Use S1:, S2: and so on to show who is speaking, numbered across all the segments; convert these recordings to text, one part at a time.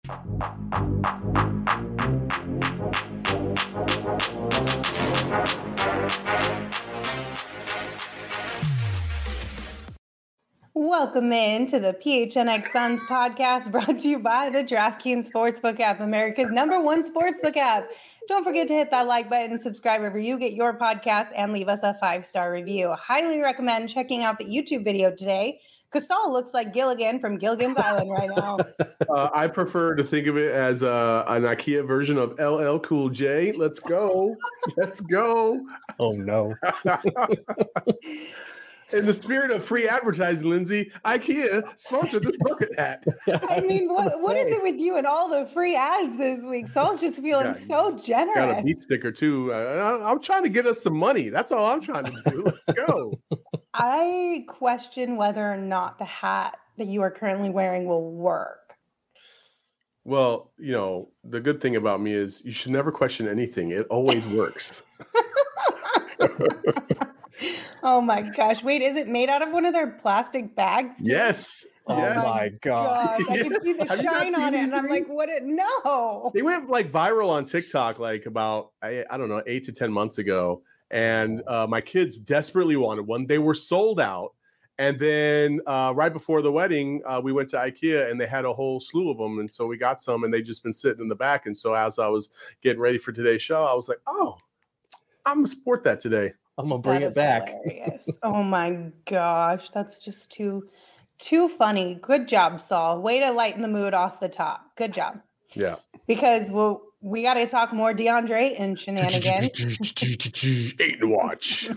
S1: Welcome in to the PHNX Suns podcast, brought to you by the DraftKings Sportsbook app, America's #1 sportsbook app. Don't forget to hit that like button, subscribe wherever you get your podcast, and leave us a 5-star review. Highly recommend checking out the YouTube video today, because Saul looks like Gilligan from Gilligan's Island right now.
S2: I prefer to think of it as an IKEA version of LL Cool J. Let's go. Let's go.
S3: Oh, no.
S2: In the spirit of free advertising, Lindsay, IKEA sponsored this bucket hat.
S1: I mean, what is it with you and all the free ads this week? Saul's just feeling so generous.
S2: Got a beat sticker, too. I'm trying to get us some money. That's all I'm trying to do. Let's go.
S1: I question whether or not the hat that you are currently wearing will work.
S2: Well, you know, the good thing about me is you should never question anything. It always works.
S1: Oh my gosh. Wait, is it made out of one of their plastic bags? Too?
S2: Yes.
S3: Oh
S2: yes.
S3: my God.
S1: I can see the shine on it. And I'm like, what? No.
S2: They went like viral on TikTok, like about, I don't know, 8 to 10 months ago. And my kids desperately wanted one. They were sold out. And then right before the wedding, we went to IKEA and they had a whole slew of them. And so we got some and they just been sitting in the back. And so as I was getting ready for today's show, I was like, oh, I'm going to support that today.
S3: I'm going to bring it back.
S1: Hilarious. Oh my gosh. That's just too funny. Good job, Saul. Way to lighten the mood off the top. Good job.
S2: Yeah.
S1: Because we got to talk more DeAndre and shenanigans.
S2: Ayton watch.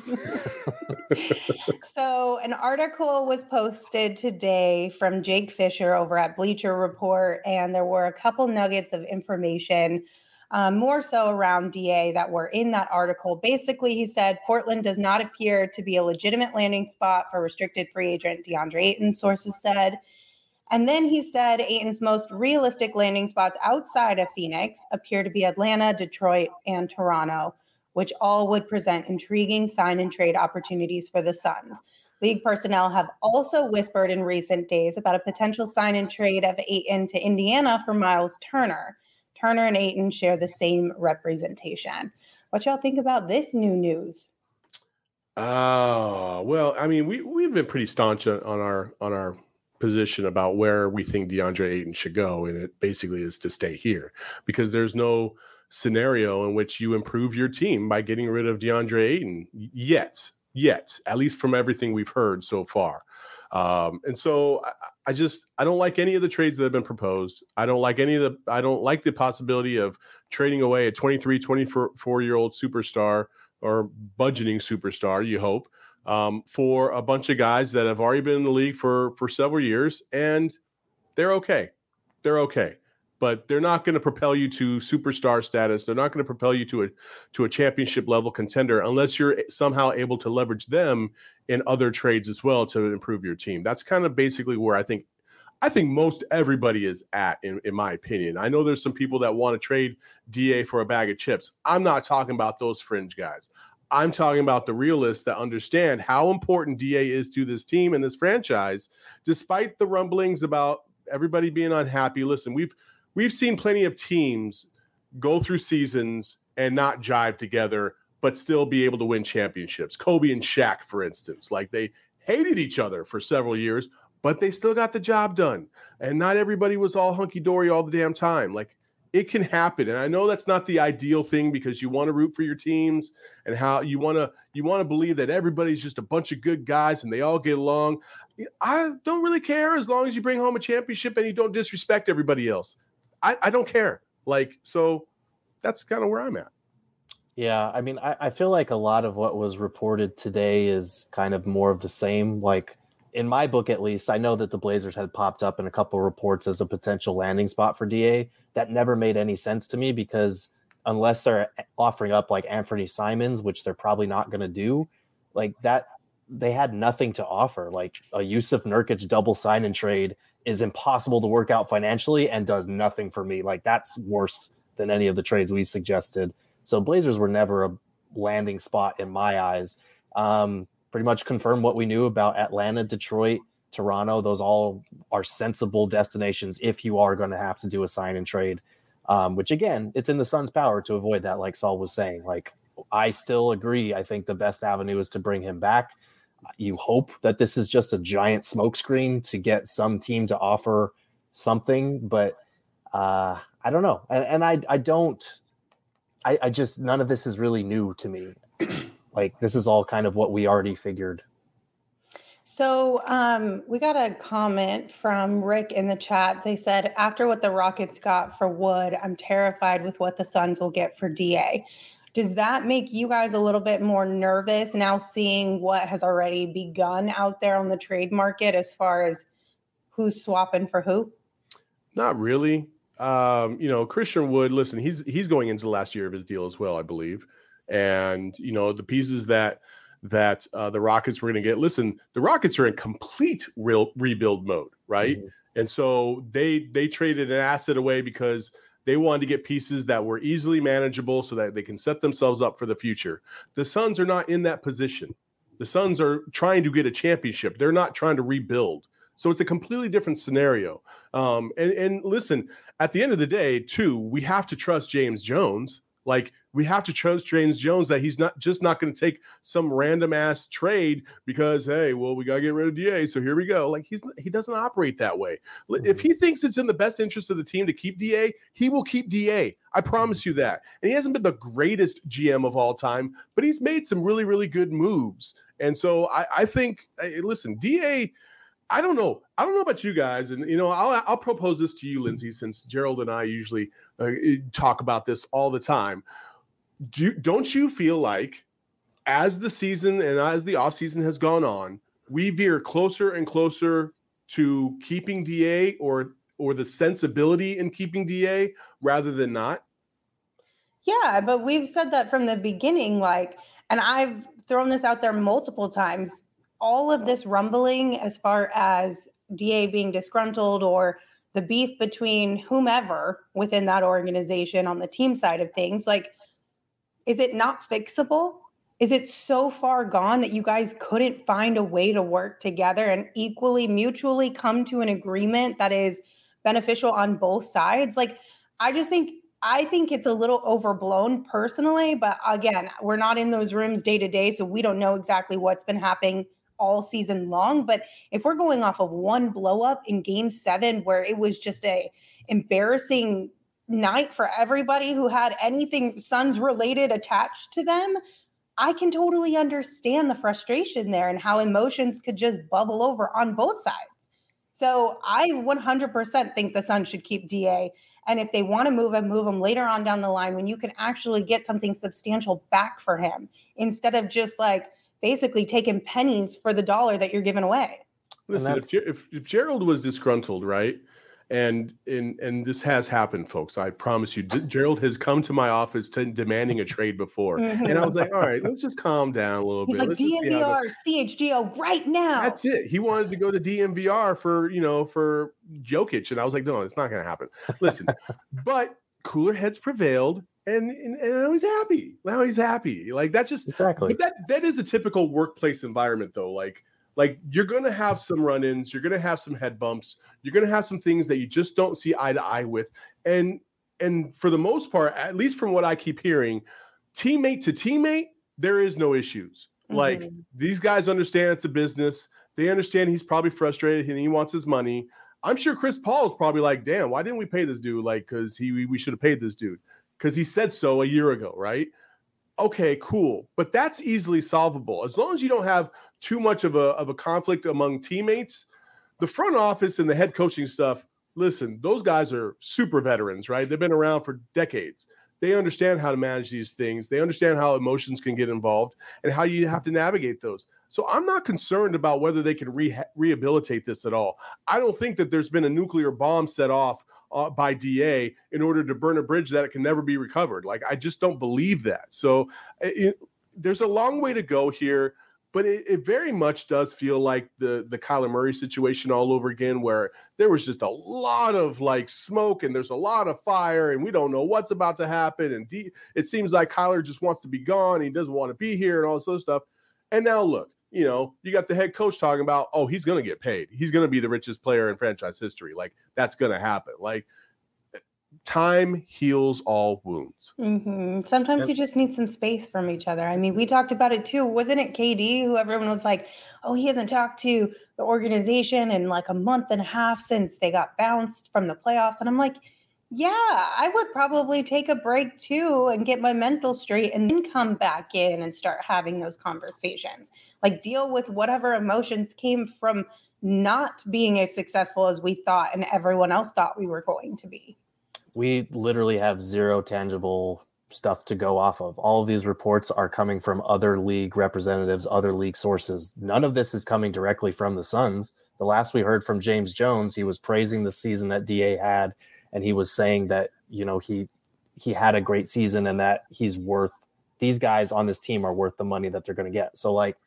S1: So an article was posted today from Jake Fisher over at Bleacher Report, and there were a couple nuggets of information, more so around DA, that were in that article. Basically, he said Portland does not appear to be a legitimate landing spot for restricted free agent DeAndre Ayton, sources said. And then he said Ayton's most realistic landing spots outside of Phoenix appear to be Atlanta, Detroit, and Toronto, which all would present intriguing sign and trade opportunities for the Suns. League personnel have also whispered in recent days about a potential sign and trade of Ayton to Indiana for Miles Turner. Turner and Ayton share the same representation. What y'all think about this new news?
S2: Oh, well, I mean, we've been pretty staunch on our position about where we think DeAndre Ayton should go, and it basically is to stay here because there's no scenario in which you improve your team by getting rid of DeAndre Ayton yet, at least from everything we've heard so far. And so I don't like any of the trades that have been proposed. I don't like the possibility of trading away a 23, 24-year-old superstar or budgeting superstar, you hope, for a bunch of guys that have already been in the league for several years, and they're okay. They're okay. But they're not going to propel you to superstar status. They're not going to propel you to a championship level contender unless you're somehow able to leverage them in other trades as well to improve your team. That's kind of basically where I think most everybody is at, in my opinion. I know there's some people that want to trade DA for a bag of chips. I'm not talking about those fringe guys. I'm talking about the realists that understand how important DA is to this team and this franchise, despite the rumblings about everybody being unhappy. Listen, we've seen plenty of teams go through seasons and not jive together, but still be able to win championships. Kobe and Shaq, for instance, like they hated each other for several years, but they still got the job done. And not everybody was all hunky-dory all the damn time. Like, it can happen. And I know that's not the ideal thing because you want to root for your teams and how you want to believe that everybody's just a bunch of good guys and they all get along. I don't really care as long as you bring home a championship and you don't disrespect everybody else. I don't care. Like, so that's kind of where I'm at.
S3: Yeah, I mean, I feel like a lot of what was reported today is kind of more of the same. Like, in my book, at least, I know that the Blazers had popped up in a couple of reports as a potential landing spot for DA. That never made any sense to me because unless they're offering up like Anthony Simons, which they're probably not going to do, like that, they had nothing to offer. Like a Yusuf Nurkic double sign and trade is impossible to work out financially and does nothing for me. Like that's worse than any of the trades we suggested. So Blazers were never a landing spot in my eyes. Pretty much confirmed what we knew about Atlanta, Detroit, Toronto. Those all are sensible destinations if you are going to have to do a sign and trade, which again, it's in the Suns' power to avoid that, like Saul was saying. Like, I still agree. I think the best avenue is to bring him back. You hope that this is just a giant smokescreen to get some team to offer something, but I don't know. And I just, none of this is really new to me. Like, this is all kind of what we already figured.
S1: So we got a comment from Rick in the chat. They said, after what the Rockets got for Wood, I'm terrified with what the Suns will get for DA. Does that make you guys a little bit more nervous now, seeing what has already begun out there on the trade market as far as who's swapping for who? Not
S2: really. Christian Wood, listen, he's going into the last year of his deal as well, I believe. And, the pieces that the Rockets were going to get, listen, the Rockets are in complete rebuild mode, right? Mm-hmm. And so they traded an asset away because they wanted to get pieces that were easily manageable so that they can set themselves up for the future. The Suns are not in that position. The Suns are trying to get a championship. They're not trying to rebuild. So it's a completely different scenario. And listen, at the end of the day, too, we have to trust James Jones. Like, we have to trust James Jones that he's not going to take some random ass trade because, hey, well, we got to get rid of DA, so here we go. Like, he doesn't operate that way. If he thinks it's in the best interest of the team to keep DA, he will keep DA. I promise you that. And he hasn't been the greatest GM of all time, but he's made some really, really good moves. And so I think, listen, DA, I don't know about you guys, and I'll propose this to you, Lindsay, since Gerald and I usually talk about this all the time. Don't you feel like, as the season and as the offseason has gone on, we veer closer and closer to keeping DA or the sensibility in keeping DA rather than not?
S1: Yeah, but we've said that from the beginning, and I've thrown this out there multiple times. All of this rumbling as far as DA being disgruntled or the beef between whomever within that organization on the team side of things, is it not fixable? Is it so far gone that you guys couldn't find a way to work together and equally mutually come to an agreement that is beneficial on both sides? I think it's a little overblown personally, but again, we're not in those rooms day to day, so we don't know exactly what's been happening all season long. But if we're going off of one blow up in Game 7 where it was just a embarrassing night for everybody who had anything Suns related attached to them, I can totally understand the frustration there and how emotions could just bubble over on both sides. So I 100% think the Suns should keep DA. And if they want to move him later on down the line when you can actually get something substantial back for him instead of just basically taking pennies for the dollar that you're giving away.
S2: Listen, if Gerald was disgruntled, right? And this has happened, folks. I promise you, Gerald has come to my office demanding a trade before. Mm-hmm. And I was like, all right, let's just calm down a little bit.
S1: He's like, DNVR, CHGO right now.
S2: That's it. He wanted to go to DNVR for Jokic. And I was like, no, it's not going to happen. Listen, but cooler heads prevailed. And now he's happy. That's just
S3: exactly.
S2: But that is a typical workplace environment, though. Like you're going to have some run-ins, you're going to have some head bumps, you're going to have some things that you just don't see eye to eye with. And for the most part, at least from what I keep hearing, teammate to teammate, there is no issues. Mm-hmm. Like, these guys understand it's a business. They understand he's probably frustrated and he wants his money. I'm sure Chris Paul is probably like, damn, why didn't we pay this dude? Because we should have paid this dude. Because he said so a year ago, right? Okay, cool. But that's easily solvable. As long as you don't have too much of a conflict among teammates, the front office and the head coaching stuff, listen, those guys are super veterans, right? They've been around for decades. They understand how to manage these things. They understand how emotions can get involved and how you have to navigate those. So I'm not concerned about whether they can rehabilitate this at all. I don't think that there's been a nuclear bomb set off by DA in order to burn a bridge that it can never be recovered. I just don't believe that. So there's a long way to go here, but it very much does feel like the Kyler Murray situation all over again, where there was just a lot of smoke and there's a lot of fire and we don't know what's about to happen. And it seems like Kyler just wants to be gone. He doesn't want to be here and all this other stuff. And now look, you know, you got the head coach talking about, oh, he's going to get paid. He's going to be the richest player in franchise history. Like, that's going to happen. Like, time heals all wounds.
S1: Sometimes you just need some space from each other. I mean, we talked about it too. Wasn't it KD who everyone was like, oh, he hasn't talked to the organization in like a month and a half since they got bounced from the playoffs? And I'm like, yeah, I would probably take a break too and get my mental straight and then come back in and start having those conversations. Like, deal with whatever emotions came from not being as successful as we thought and everyone else thought we were going to be.
S3: We literally have zero tangible stuff to go off of. All of these reports are coming from other league representatives, other league sources. None of this is coming directly from the Suns. The last we heard from James Jones, he was praising the season that DA had, and he was saying that, you know, he had a great season and that he's worth, these guys on this team are worth the money that they're going to get. So like,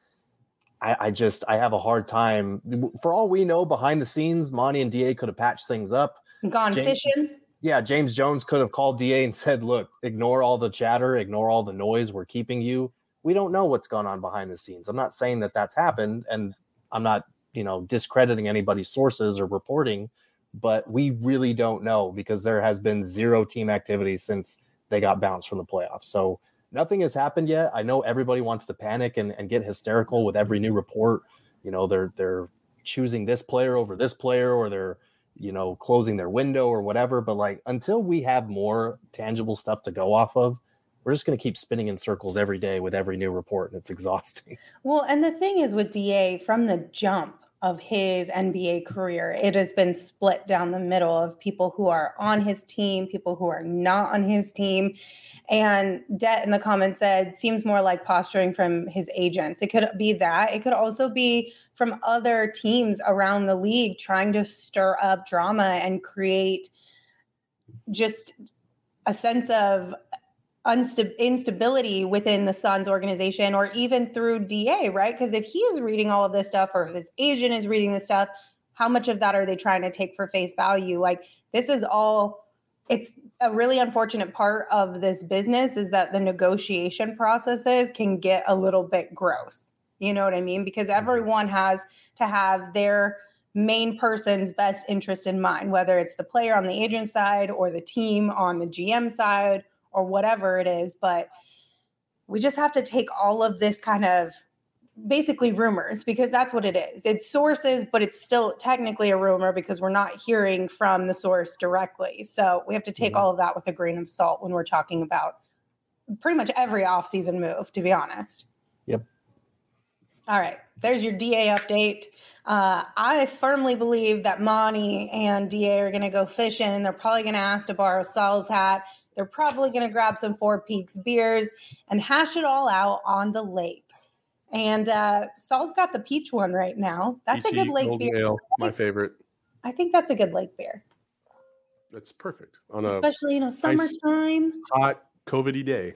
S3: I have a hard time. For all we know, behind the scenes, Monty and DA could have patched things up.
S1: Gone fishing.
S3: Yeah, James Jones could have called DA and said, look, ignore all the chatter, ignore all the noise. We're keeping you. We don't know what's gone on behind the scenes. I'm not saying that that's happened, and I'm not, you know, discrediting anybody's sources or reporting, but we really don't know because there has been zero team activity since they got bounced from the playoffs. So nothing has happened yet. I know everybody wants to panic and get hysterical with every new report. You know, they're choosing this player over this player, or they're, you know, closing their window or whatever. But like, until we have more tangible stuff to go off of, we're just going to keep spinning in circles every day with every new report, and it's exhausting.
S1: Well, and the thing is with DA, from the jump of his NBA career, it has been split down the middle of people who are on his team, people who are not on his team. And Det in the comments said, seems more like posturing from his agents. It could be that. It could also be from other teams around the league trying to stir up drama and create just a sense of instability within the Suns organization, or even through DA, right? Because if he is reading all of this stuff, or his agent is reading this stuff, how much of that are they trying to take for face value? Like, this is all, it's a really unfortunate part of this business, is that the negotiation processes can get a little bit gross. You know what I mean? Because everyone has to have their main person's best interest in mind, whether it's the player on the agent side or the team on the GM side or whatever it is. But we just have to take all of this kind of basically rumors, because that's what it is. It's sources, but it's still technically a rumor because we're not hearing from the source directly. So we have to take all of that with a grain of salt when we're talking about pretty much every offseason move, to be honest.
S3: Yep.
S1: All right. There's your DA update. I firmly believe that Monty and DA are going to go fishing. They're probably going to ask to borrow Sal's hat. They're probably going to grab some Four Peaks beers and hash it all out on the lake. And Sal's got the peach one right now. That's Peachy, a good lake beer.
S2: Ale, my favorite.
S1: I think that's a good lake beer.
S2: That's perfect.
S1: Especially, summertime.
S2: Hot, COVID-y day.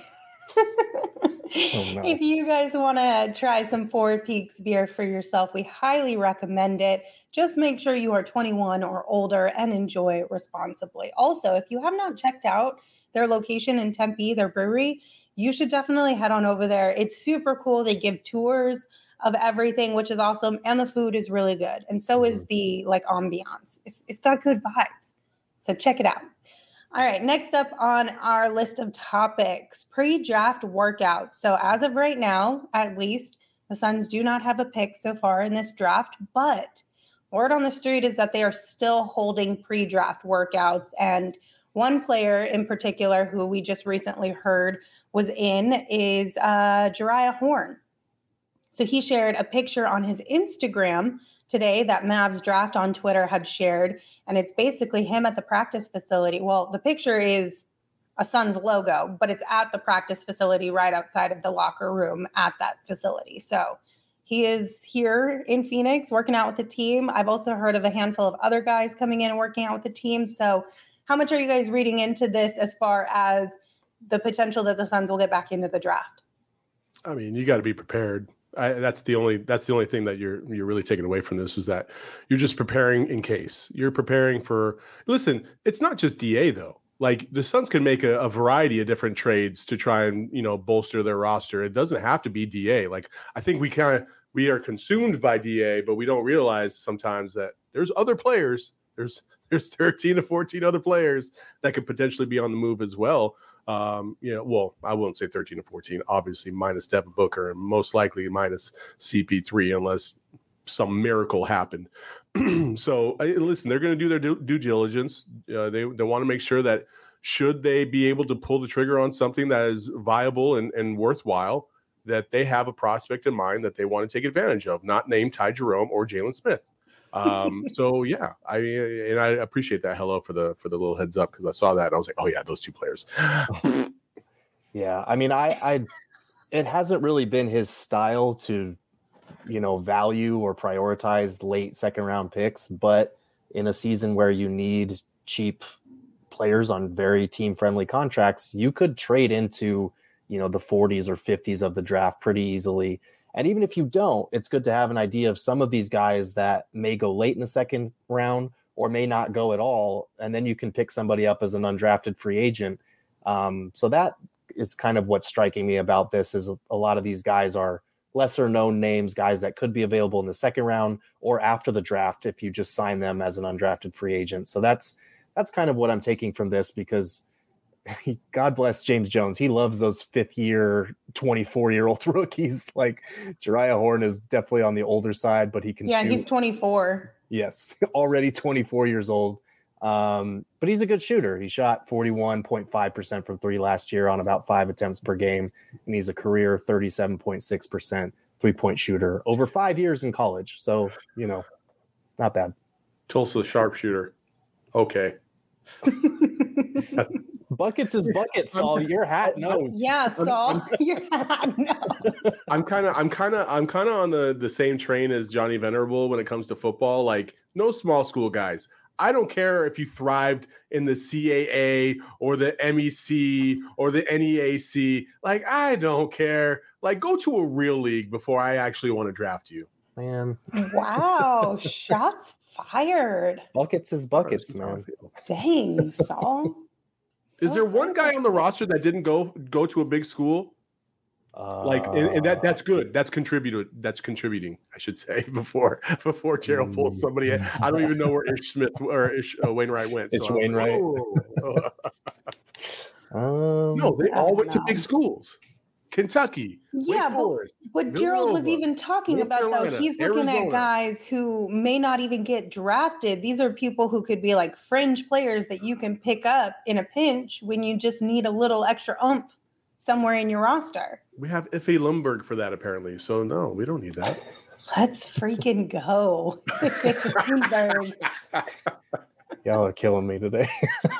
S3: Oh, no.
S1: If you guys want to try some Four Peaks beer for yourself, we highly recommend it. Just make sure you are 21 or older and enjoy it responsibly. Also, if you have not checked out their location in Tempe, their brewery, you should definitely head on over there. It's super cool. They give tours of everything, which is awesome. And the food is really good. And so is the ambiance. It's got good vibes. So check it out. All right, next up on our list of topics, pre-draft workouts. So as of right now, at least, the Suns do not have a pick so far in this draft, but word on the street is that they are still holding pre-draft workouts. And one player in particular who we just recently heard was in is Jeriah Horn. So he shared a picture on his Instagram today that Mavs Draft on Twitter had shared, and it's basically him at the practice facility. Well, the picture is a Suns logo, but it's at the practice facility right outside of the locker room at that facility. So he is here in Phoenix working out with the team. I've also heard of a handful of other guys coming in and working out with the team. So how much are you guys reading into this as far as the potential that the Suns will get back into the draft?
S2: I mean, you got to be prepared. That's the only thing that you're really taking away from this, is that you're just preparing in case. You're preparing for. Listen, it's not just DA though. Like, the Suns can make a variety of different trades to try and bolster their roster. It doesn't have to be DA. Like, I think we kind of we are consumed by DA, but we don't realize sometimes that there's other players. There's 13 to 14 other players that could potentially be on the move as well. Well, I won't say 13 to 14, obviously minus Devin Booker and most likely minus CP3 unless some miracle happened. So listen, they're going to do their due diligence. They want to make sure that should they be able to pull the trigger on something that is viable and worthwhile, that they have a prospect in mind that they want to take advantage of, not named Ty Jerome or Jalen Smith. So yeah, I appreciate that. Hello for the little heads up, because I saw that and I was like, oh yeah, those two players.
S3: Yeah, I mean, it hasn't really been his style to, value or prioritize late second round picks, but in a season where you need cheap players on very team friendly contracts, you could trade into, the 40s or 50s of the draft pretty easily. And even if you don't, it's good to have an idea of some of these guys that may go late in the second round or may not go at all. And then you can pick somebody up as an undrafted free agent. So that is kind of what's striking me about this, is a lot of these guys are lesser known names, guys that could be available in the second round or after the draft if you just sign them as an undrafted free agent. So that's kind of what I'm taking from this, because God bless James Jones. He loves those 5th year, 24-year-old rookies. Like Jeriah Horn is definitely on the older side, but he can shoot.
S1: He's 24.
S3: Yes, already 24 years old. But he's a good shooter. He shot 41.5% from 3 last year on about 5 attempts per game. And he's a career 37.6% 3-point shooter over 5 years in college. So, not bad.
S2: Tulsa sharpshooter. Okay.
S3: Buckets is buckets, Saul. Your hat knows.
S1: Yeah, Saul. Your hat knows.
S2: I'm kind of on the same train as Johnny Venerable when it comes to football. Like, no small school guys. I don't care if you thrived in the CAA or the MEC or the NEAC. Like, I don't care. Like, go to a real league before I actually want to draft you.
S3: Man.
S1: Wow. Shots fired.
S3: Buckets is buckets, man.
S1: Dang, Saul.
S2: Is there one guy on the roster that didn't go to a big school? And that's good. That's contributing, I should say, before Gerald pulls somebody in. I don't even know where Ish Smith or Ish Wainwright went.
S3: It's Wainwright.
S2: No, they all went to big schools. Kentucky.
S1: Yeah, but what Gerald was even talking about, though, he's looking at guys who may not even get drafted. These are people who could be like fringe players that you can pick up in a pinch when you just need a little extra oomph somewhere in your roster.
S2: We have Ife Lundberg for that, apparently. So no, we don't need that.
S1: Let's freaking go. Lundberg.
S3: Y'all are killing me today.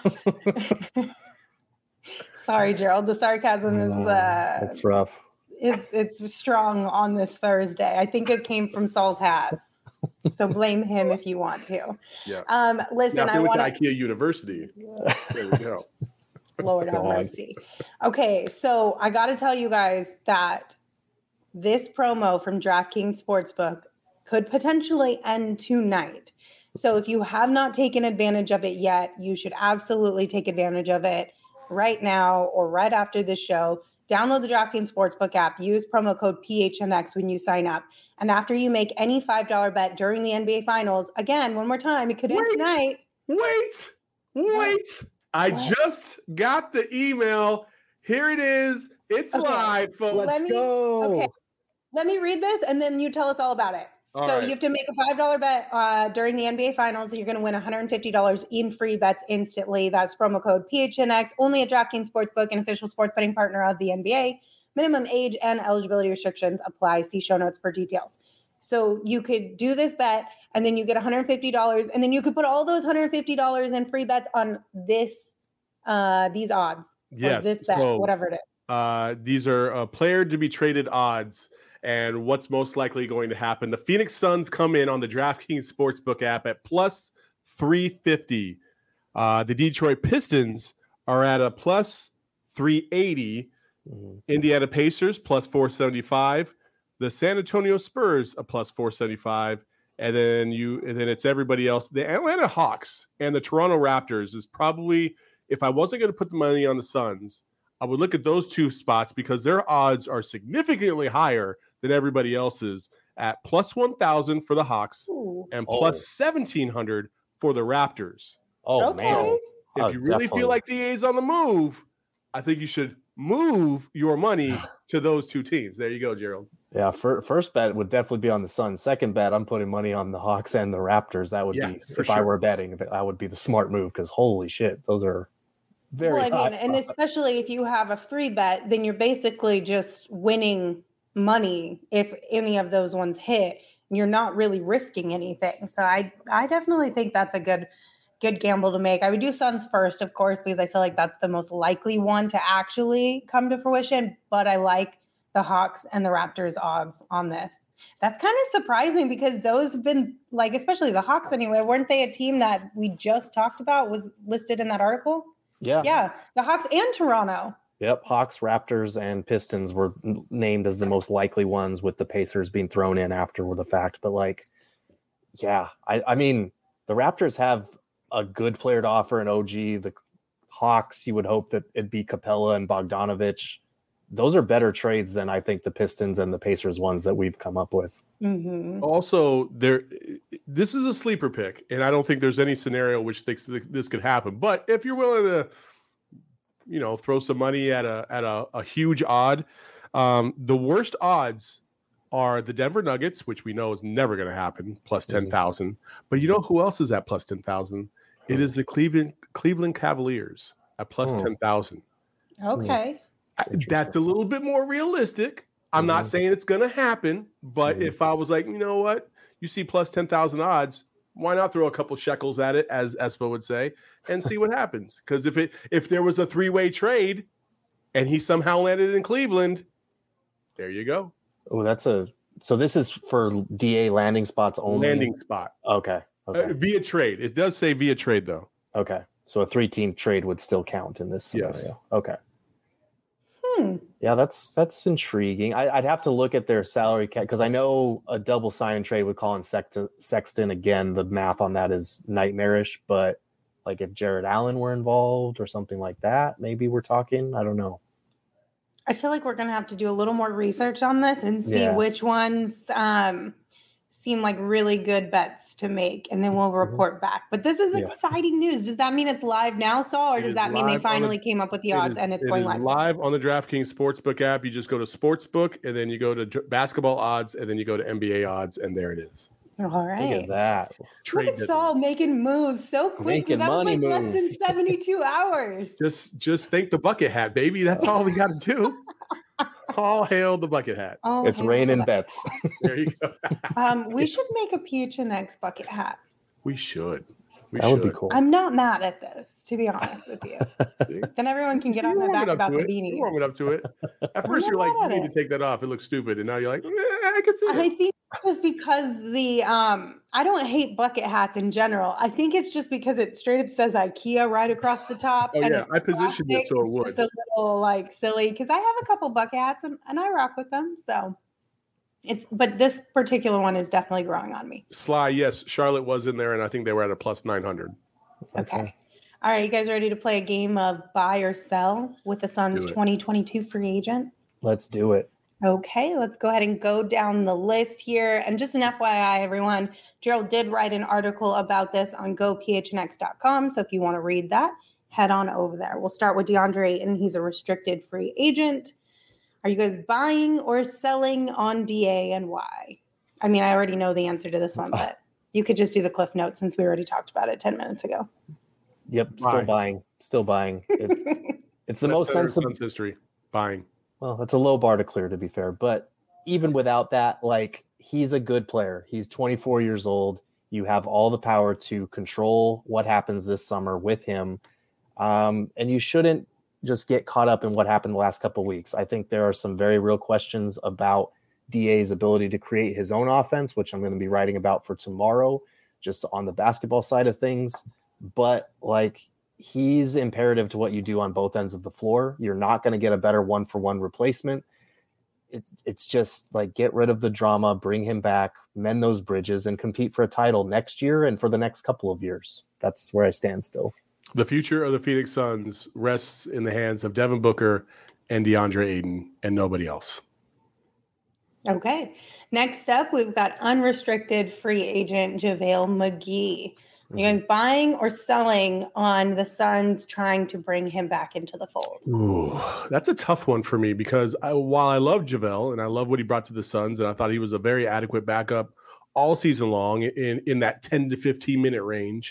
S1: Sorry, Gerald. The sarcasm is
S3: it's rough.
S1: It's strong on this Thursday. I think it came from Saul's hat. So blame him if you want to.
S2: Yeah.
S1: Listen,
S2: I went to IKEA University. There we go.
S1: Lord have mercy. Okay, so I got to tell you guys that this promo from DraftKings Sportsbook could potentially end tonight. So if you have not taken advantage of it yet, you should absolutely take advantage of it right now or right after this show. Download the DraftKings Sportsbook app. Use promo code PHNX when you sign up. And after you make any $5 bet during the NBA Finals, again, one more time, it could end tonight.
S2: Wait. I just got the email. Here it is. It's live, folks.
S3: Let's go.
S1: Okay. Let me read this, and then you tell us all about it. You have to make a $5 bet during the NBA Finals, and you're going to win $150 in free bets instantly. That's promo code PHNX, only at DraftKings Sportsbook, an official sports betting partner of the NBA. Minimum age and eligibility restrictions apply. See show notes for details. So you could do this bet, and then you get $150, and then you could put all those $150 in free bets on these odds.
S2: Yes,
S1: this bet, whatever it is.
S2: These are player to be traded odds. And what's most likely going to happen? The Phoenix Suns come in on the DraftKings Sportsbook app at plus 350. The Detroit Pistons are at a plus 380. Indiana Pacers plus 475. The San Antonio Spurs a plus 475. And then it's everybody else. The Atlanta Hawks and the Toronto Raptors is probably, if I wasn't going to put the money on the Suns, I would look at those two spots because their odds are significantly higher than everybody else's at plus 1,000 for the Hawks
S1: Ooh.
S2: and plus 1,700 for the Raptors.
S3: Oh,
S1: Okay.
S3: man.
S2: If you really feel like DA's on the move, I think you should move your money to those two teams. There you go, Gerald.
S3: Yeah, first bet would definitely be on the Suns. Second bet, I'm putting money on the Hawks and the Raptors. That would be, if I were betting, that would be the smart move because holy shit, those are very high.
S1: And especially if you have a free bet, then you're basically just winning money if any of those ones hit. You're not really risking anything. So I definitely think that's a good gamble to make. I would do Suns first, of course, because I feel like that's the most likely one to actually come to fruition. But I like the Hawks and the Raptors odds on this. That's kind of surprising because those have been like, especially the Hawks anyway, weren't they a team that we just talked about was listed in that article? Yeah. The Hawks and Toronto.
S3: Yep. Hawks, Raptors, and Pistons were named as the most likely ones with the Pacers being thrown in after the fact. But like, yeah, I mean, the Raptors have a good player to offer in OG. The Hawks, you would hope that it'd be Capella and Bogdanovich. Those are better trades than I think the Pistons and the Pacers ones that we've come up with.
S1: Mm-hmm.
S2: Also, this is a sleeper pick, and I don't think there's any scenario which thinks this could happen. But if you're willing to, throw some money at a huge odd, the worst odds are the Denver Nuggets, which we know is never going to happen, plus 10,000. But you know who else is at plus 10,000? It is the Cleveland Cavaliers at plus 10,000.
S1: Okay.
S2: That's a little bit more realistic. I'm not saying it's going to happen, but if I was like, you know what, you see plus 10,000 odds, why not throw a couple shekels at it, as Espo would say, and see what happens? Because if there was a three-way trade and he somehow landed in Cleveland, there you go.
S3: Oh, so this is for DA landing spots only?
S2: Landing spot.
S3: Okay.
S2: Via trade. It does say via trade, though.
S3: Okay. So a 3-team trade would still count in this scenario.
S2: Yes.
S3: Okay. Yeah, that's intriguing. I'd have to look at their salary cap because I know a double sign and trade with Colin Sexton, again, the math on that is nightmarish. But like if Jared Allen were involved or something like that, maybe we're talking. I don't know.
S1: I feel like we're going to have to do a little more research on this and see which ones seem like really good bets to make, and then we'll report back. But this is exciting news. Does that mean it's live now, Saul, or does that mean they finally came up with the odds and it's going live?
S2: Live on the DraftKings Sportsbook app. You just go to Sportsbook, and then you go to basketball odds, and then you go to NBA odds, and there it is.
S1: All right.
S3: Look at that.
S1: Look at Saul making moves so quickly. That was like less than 72 hours.
S2: Just thank the bucket hat, baby. That's all we got to do. All hail the bucket hat.
S3: It's raining bets.
S2: There you go.
S1: We should make a PHNX bucket hat.
S2: We should.
S3: That would be cool.
S1: I'm not mad at this, to be honest with you. Then everyone can get on my back about the beanies.
S2: You're warming up to it. At first, you're like, you need to take that off. It looks stupid. And now you're like, I can see it.
S1: I think it was because I don't hate bucket hats in general. I think it's just because it straight up says IKEA right across the top.
S2: Oh, yeah. I positioned it so it would.
S1: It's just a little like silly because I have a couple bucket hats and I rock with them. So but this particular one is definitely growing on me.
S2: Sly, yes. Charlotte was in there, and I think they were at a plus 900.
S1: Okay. All right. You guys ready to play a game of buy or sell with the Suns 2022 free agents?
S3: Let's do it.
S1: Okay, let's go ahead and go down the list here. And just an FYI, everyone, Gerald did write an article about this on gophnx.com. So if you want to read that, head on over there. We'll start with DeAndre Ayton. He's a restricted free agent. Are you guys buying or selling on DA and why? I mean, I already know the answer to this one, but you could just do the cliff notes since we already talked about it 10 minutes ago.
S3: Yep, still buying. It's the most sensible
S2: history. Buying.
S3: Well, that's a low bar to clear, to be fair. But even without that, like, he's a good player. He's 24 years old. You have all the power to control what happens this summer with him. And you shouldn't just get caught up in what happened the last couple of weeks. I think there are some very real questions about DA's ability to create his own offense, which I'm going to be writing about for tomorrow, just on the basketball side of things. But like, he's imperative to what you do on both ends of the floor. You're not going to get a better 1-for-1 replacement. It's just like, get rid of the drama, bring him back, mend those bridges, and compete for a title next year and for the next couple of years. That's where I stand still.
S2: The future of the Phoenix Suns rests in the hands of Devin Booker and DeAndre Ayton and nobody else.
S1: Okay. Next up, we've got unrestricted free agent JaVale McGee. You guys buying or selling on the Suns trying to bring him back into the fold?
S2: Ooh, that's a tough one for me because while I love JaVale and I love what he brought to the Suns, and I thought he was a very adequate backup all season long in that 10 to 15 minute range,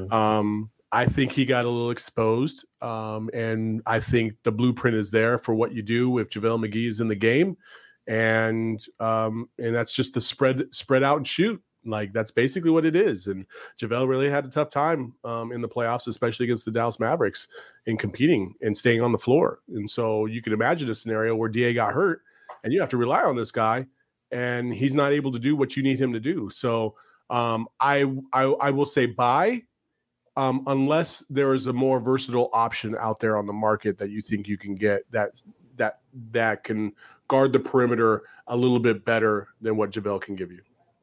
S2: I think he got a little exposed. And I think the blueprint is there for what you do if JaVale McGee is in the game. And that's just the spread out and shoot. Like, that's basically what it is. And JaVale really had a tough time in the playoffs, especially against the Dallas Mavericks, in competing and staying on the floor. And so you can imagine a scenario where DA got hurt and you have to rely on this guy and he's not able to do what you need him to do. So I will say buy, unless there is a more versatile option out there on the market that you think you can get that can guard the perimeter a little bit better than what JaVale can give you.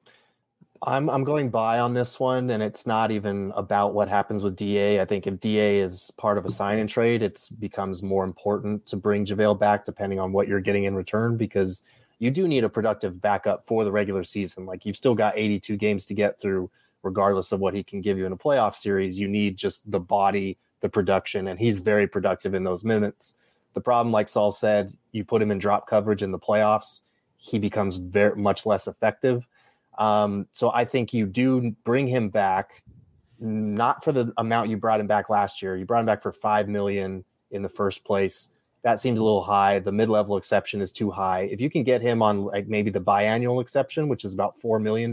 S3: I'm going buy on this one, and it's not even about what happens with DA. I think if DA is part of a sign and trade, it becomes more important to bring JaVale back depending on what you're getting in return, because you do need a productive backup for the regular season. Like, you've still got 82 games to get through, regardless of what he can give you in a playoff series. You need just the body, the production, and he's very productive in those minutes. The problem, like Saul said, you put him in drop coverage in the playoffs, he becomes very much less effective. So I think you do bring him back, not for the amount you brought him back last year. You brought him back for $5 million in the first place. That seems a little high. The mid-level exception is too high. If you can get him on like maybe the biannual exception, which is about $4 million,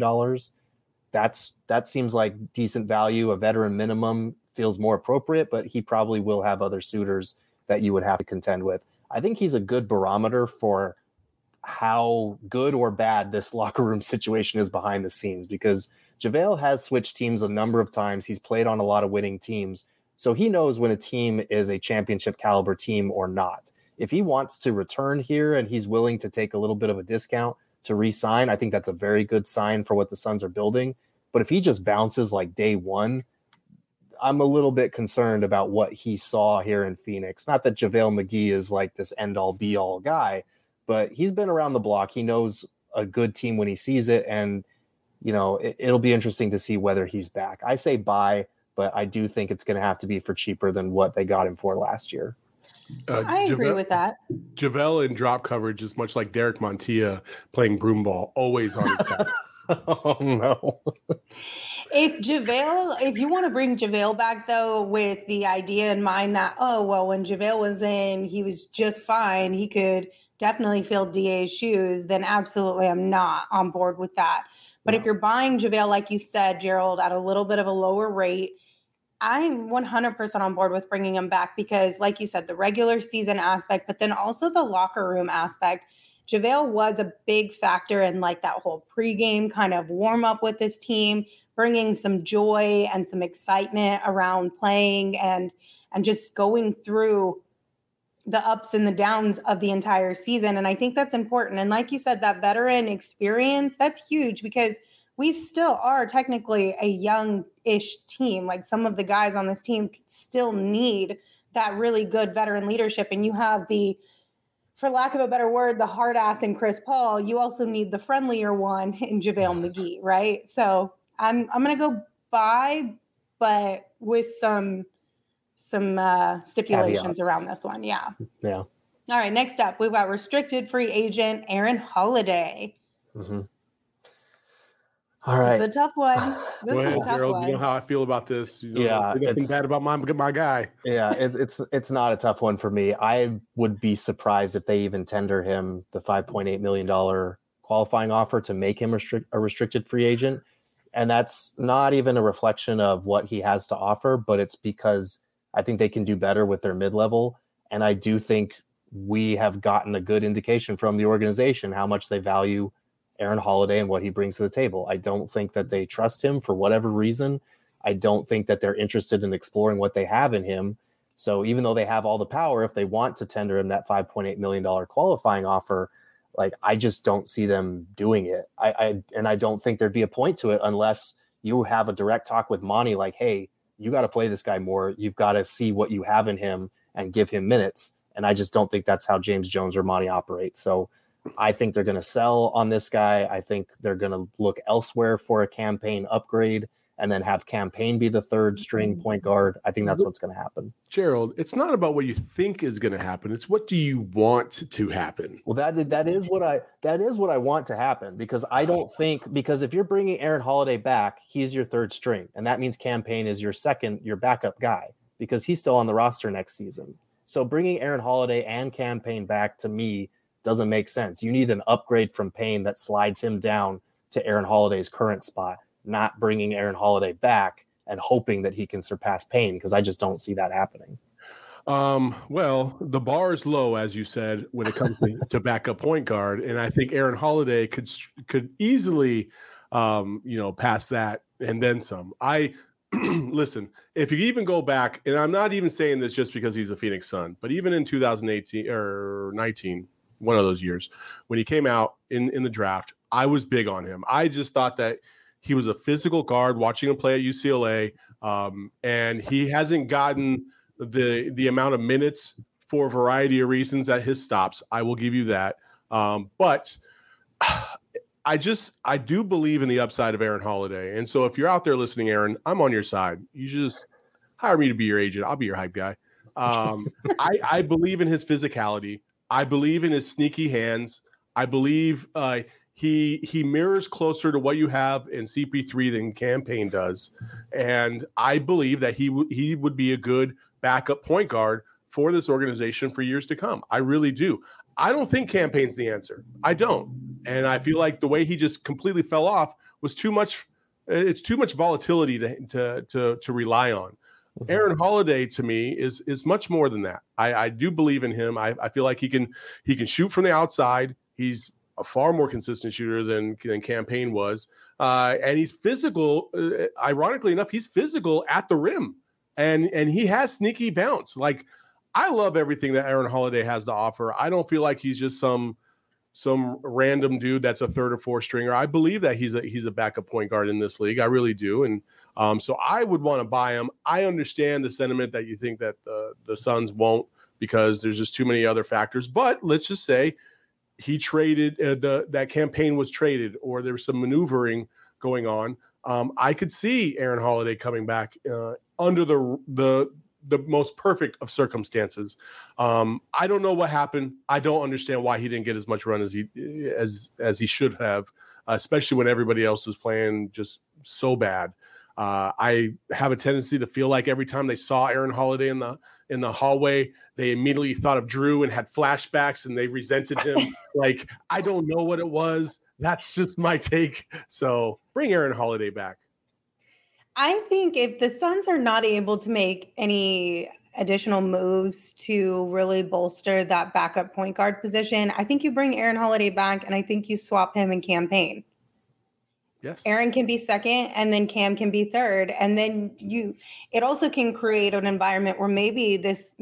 S3: that seems like decent value. A veteran minimum feels more appropriate, but he probably will have other suitors that you would have to contend with. I think he's a good barometer for how good or bad this locker room situation is behind the scenes, because JaVale has switched teams a number of times. He's played on a lot of winning teams. So he knows when a team is a championship caliber team or not. If he wants to return here and he's willing to take a little bit of a discount to re-sign, I think that's a very good sign for what the Suns are building. But if he just bounces like day one, I'm a little bit concerned about what he saw here in Phoenix. Not that JaVale McGee is like this end-all be-all guy, but he's been around the block. He knows a good team when he sees it. And, it'll be interesting to see whether he's back. I say buy, but I do think it's going to have to be for cheaper than what they got him for last year.
S1: I agree with that.
S2: JaVale in drop coverage is much like Derek Montilla playing broom ball, always on his back.
S3: Oh, no.
S1: If you want to bring JaVale back, though, with the idea in mind that, when JaVale was in, he was just fine, he could definitely fill DA's shoes, then absolutely I'm not on board with that. But if you're buying JaVale, like you said, Gerald, at a little bit of a lower rate, I'm 100% on board with bringing him back because, like you said, the regular season aspect, but then also the locker room aspect. JaVale was a big factor in like that whole pregame kind of warm up with this team, bringing some joy and some excitement around playing and just going through the ups and the downs of the entire season. And I think that's important. And like you said, that veteran experience, that's huge because we still are technically a young-ish team. Like, some of the guys on this team still need that really good veteran leadership. And you have for lack of a better word, the hard ass in Chris Paul. You also need the friendlier one in JaVale McGee, right? So I'm going to go buy, but with some stipulations
S3: caveats
S1: around this one. Yeah.
S3: All
S1: right. Next up, we've got restricted free agent Aaron Holiday.
S3: Mm-hmm. All right.
S1: It's a tough one. This is a tough
S2: Gerald,
S1: one.
S2: you know how I feel about this.
S3: Yeah,
S2: nothing bad about my guy.
S3: Yeah, it's not a tough one for me. I would be surprised if they even tender him the $5.8 million qualifying offer to make him a restricted free agent. And that's not even a reflection of what he has to offer, but it's because I think they can do better with their mid-level. And I do think we have gotten a good indication from the organization how much they value Aaron Holiday and what he brings to the table. I don't think that they trust him for whatever reason. I don't think that they're interested in exploring what they have in him. So even though they have all the power, if they want to tender him that $5.8 million qualifying offer, like, I just don't see them doing it. I don't think there'd be a point to it unless you have a direct talk with Monty, like, hey, you got to play this guy more. You've got to see what you have in him and give him minutes. And I just don't think that's how James Jones or Monty operates. So I think they're going to sell on this guy. I think they're going to look elsewhere for a Campaign upgrade and then have Campaign be the third string point guard. I think that's what's going to happen.
S2: Gerald, it's not about what you think is going to happen. It's what do you want to happen?
S3: Well, that is what I want to happen, because I don't think, because if you're bringing Aaron Holiday back, he's your third string, and that means Campaign is your backup guy, because he's still on the roster next season. So bringing Aaron Holiday and Campaign back, to me, doesn't make sense. You need an upgrade from Payne that slides him down to Aaron Holiday's current spot, not bringing Aaron Holiday back and hoping that he can surpass Payne, because I just don't see that happening.
S2: Well, the bar is low, as you said, when it comes to backup point guard, and I think Aaron Holiday could easily, pass that and then some. Listen, if you even go back, and I'm not even saying this just because he's a Phoenix Sun, but even in 2018 or 19, one of those years, when he came out in the draft, I was big on him. I just thought that he was a physical guard, watching him play at UCLA, and he hasn't gotten the amount of minutes for a variety of reasons at his stops. I will give you that. But I do believe in the upside of Aaron Holiday. And so if you're out there listening, Aaron, I'm on your side. You just hire me to be your agent. I'll be your hype guy. I believe in his physicality. I believe in his sneaky hands. I believe he mirrors closer to what you have in CP3 than Campaign does. And I believe that he would be a good backup point guard for this organization for years to come. I really do. I don't think Campaign's the answer. I don't. And I feel like the way he just completely fell off was too much. It's too much volatility to rely on. Aaron Holiday, to me, is much more than that. I do believe in him. I feel like he can shoot from the outside. He's a far more consistent shooter than Campaign was. And he's physical. Ironically enough, he's physical at the rim. And he has sneaky bounce. Like, I love everything that Aaron Holiday has to offer. I don't feel like he's just some random dude that's a third or fourth stringer. I believe that he's a backup point guard in this league. I really do. And so I would want to buy him. I understand the sentiment that you think that the Suns won't, because there's just too many other factors. But let's just say he traded, that Campaign was traded, or there was some maneuvering going on. I could see Aaron Holiday coming back under the most perfect of circumstances. I don't know what happened. I don't understand why he didn't get as much run as he should have, especially when everybody else was playing just so bad. I have a tendency to feel like every time they saw Aaron Holiday in the hallway, they immediately thought of Drew and had flashbacks, and they resented him. Like, I don't know what it was. That's just my take. So bring Aaron Holiday back.
S1: I think if the Suns are not able to make any additional moves to really bolster that backup point guard position, I think you bring Aaron Holiday back, and I think you swap him in Campaign.
S2: Yes.
S1: Aaron can be second, and then Cam can be third. And then it also can create an environment where maybe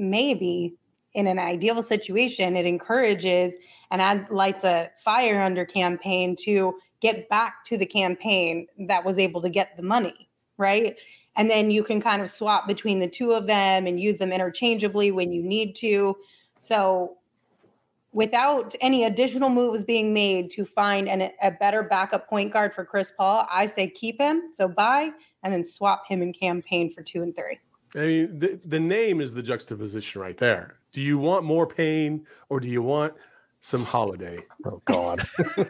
S1: in an ideal situation, it encourages and lights a fire under Campaign to get back to the Campaign that was able to get the money. Right. And then you can kind of swap between the two of them and use them interchangeably when you need to. So without any additional moves being made to find a better backup point guard for Chris Paul, I say keep him. So buy and then swap him in Campaign for 2 and 3.
S2: I mean, the name is the juxtaposition right there. Do you want more Payne, or do you want some Holiday?
S3: Oh, God.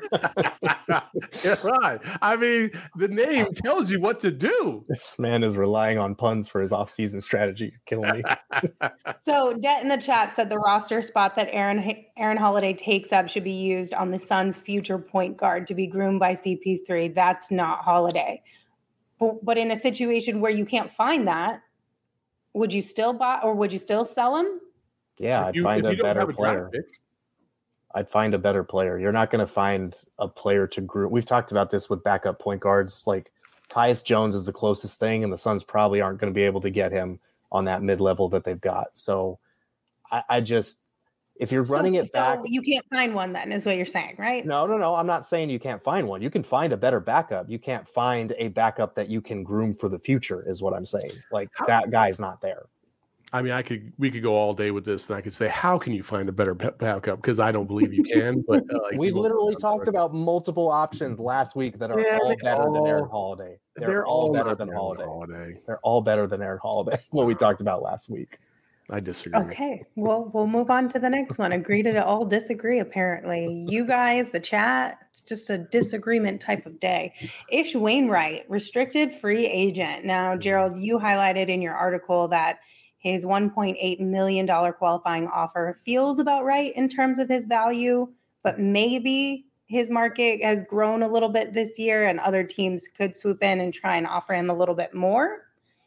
S2: Yeah, right. I mean, the name tells you what to do.
S3: This man is relying on puns for his offseason strategy. You're killing me.
S1: So Det in the chat said the roster spot that Aaron Holiday takes up should be used on the Suns' future point guard to be groomed by CP3. That's not Holiday. But in a situation where you can't find that, would you still buy, or would you still sell him?
S3: Yeah, I'd find a better player. I'd find a better player. You're not going to find a player to groom. We've talked about this with backup point guards. Like, Tyus Jones is the closest thing, and the Suns probably aren't going to be able to get him on that mid-level that they've got. So I just, if you're running it back.
S1: You can't find one then, is what you're saying, right?
S3: No. I'm not saying you can't find one. You can find a better backup. You can't find a backup that you can groom for the future, is what I'm saying. Like, that guy's not there.
S2: I mean, we could go all day with this, and I could say, how can you find a better backup? Because I don't believe you can. But
S3: we literally talked about multiple options last week that are all better than Aaron Holiday. They're all better than Holiday. They're all better than Aaron Holiday. What we talked about last week.
S2: I disagree.
S1: Okay, well, we'll move on to the next one. Agree to all disagree, apparently. You guys, the chat, it's just a disagreement type of day. Ish Wainwright, restricted free agent. Now, Gerald, you highlighted in your article that his $1.8 million qualifying offer feels about right in terms of his value, but maybe his market has grown a little bit this year and other teams could swoop in and try and offer him a little bit more.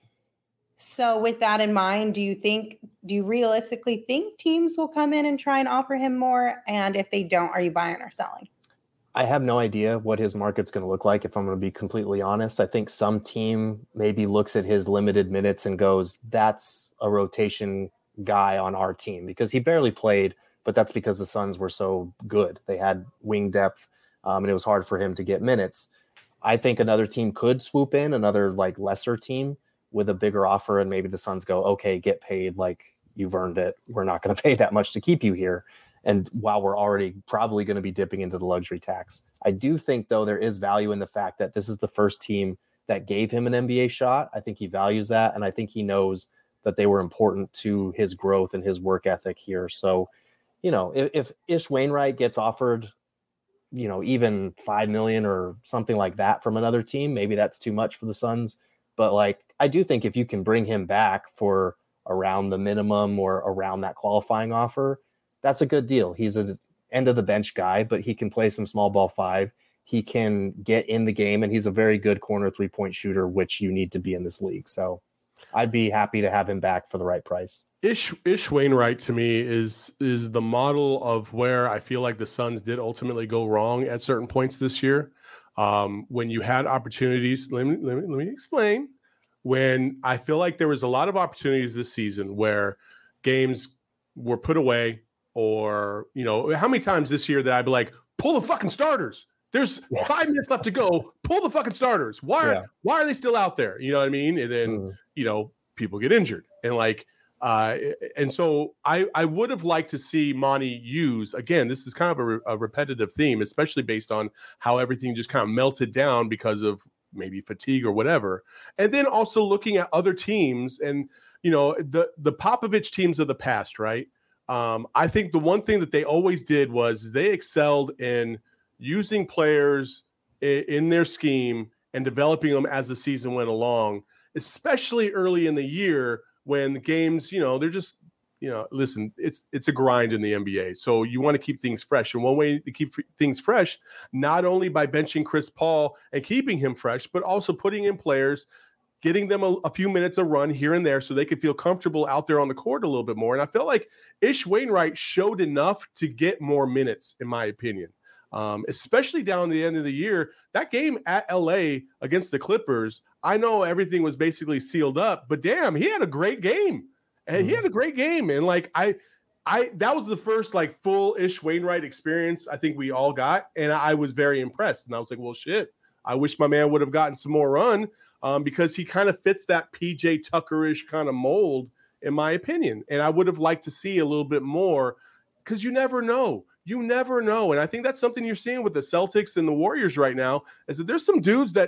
S1: So with that in mind, do you realistically think teams will come in and try and offer him more? And if they don't, are you buying or selling?
S3: I have no idea what his market's going to look like, if I'm going to be completely honest. I think some team maybe looks at his limited minutes and goes, that's a rotation guy on our team, because he barely played, but that's because the Suns were so good. They had wing depth, and it was hard for him to get minutes. I think another team could swoop in, another like lesser team with a bigger offer, and maybe the Suns go, okay, get paid, like you've earned it. We're not going to pay that much to keep you here. And while we're already probably going to be dipping into the luxury tax, I do think, though, there is value in the fact that this is the first team that gave him an NBA shot. I think he values that, and I think he knows that they were important to his growth and his work ethic here. So, you know, if Ish Wainwright gets offered, you know, even $5 million or something like that from another team, maybe that's too much for the Suns. But like, I do think if you can bring him back for around the minimum or around that qualifying offer, that's a good deal. He's an end of the bench guy, but he can play some small ball five. He can get in the game, and he's a very good corner 3-point shooter, which you need to be in this league. So I'd be happy to have him back for the right price.
S2: Ish Wainwright to me is the model of where I feel like the Suns did ultimately go wrong at certain points this year. When you had opportunities, let me explain. When I feel like there was a lot of opportunities this season where games were put away, or, you know, how many times this year that I'd be like, pull the fucking starters. There's 5 minutes left to go. Pull the fucking starters. Why are they still out there? You know what I mean? And then, you know, people get injured. And like, and so I would have liked to see Monty use, again, this is kind of a repetitive theme, especially based on how everything just kind of melted down because of maybe fatigue or whatever. And then also looking at other teams and, you know, the Popovich teams of the past, right? I think the one thing that they always did was they excelled in using players in their scheme and developing them as the season went along, especially early in the year when the games, you know, they're just, you know, listen, it's a grind in the NBA. So you want to keep things fresh. And one way to keep things fresh, not only by benching Chris Paul and keeping him fresh, but also putting in players, getting them a few minutes of run here and there so they could feel comfortable out there on the court a little bit more. And I felt like Ish Wainwright showed enough to get more minutes, in my opinion, especially down the end of the year. That game at LA against the Clippers, I know everything was basically sealed up, but damn, he had a great game. And he had a great game. And like, I that was the first like full Ish Wainwright experience I think we all got. And I was very impressed. And I was like, well, shit, I wish my man would have gotten some more run. Because he kind of fits that PJ Tucker-ish kind of mold, in my opinion. And I would have liked to see a little bit more, because you never know. You never know. And I think that's something you're seeing with the Celtics and the Warriors right now, is that there's some dudes that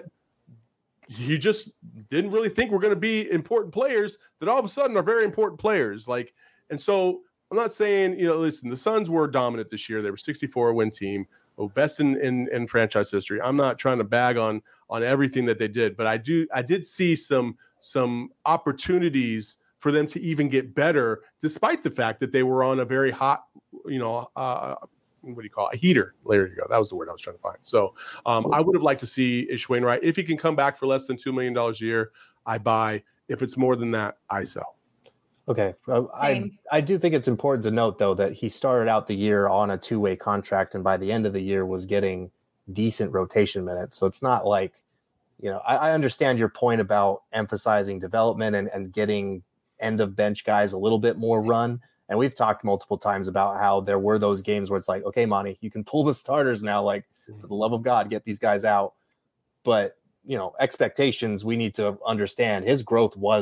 S2: you just didn't really think were going to be important players that all of a sudden are very important players. Like, and so I'm not saying, you know, listen, the Suns were dominant this year. They were 64-win team. Best in franchise history. I'm not trying to bag on everything that they did, but I did see some opportunities for them to even get better, despite the fact that they were on a very hot, you know, what do you call it? A heater. There you go. That was the word I was trying to find. So I would have liked to see Ish Wainwright. If he can come back for less than $2 million a year, I buy. If it's more than that, I sell.
S3: Okay. I do think it's important to note, though, that he started out the year on a 2-way contract, and by the end of the year was getting decent rotation minutes. So it's not like, you know, I understand your point about emphasizing development and getting end of bench guys a little bit more run. And we've talked multiple times about how there were those games where it's like, okay, Monty, you can pull the starters now, like, for the love of God, get these guys out. But, you know, expectations, we need to understand his growth was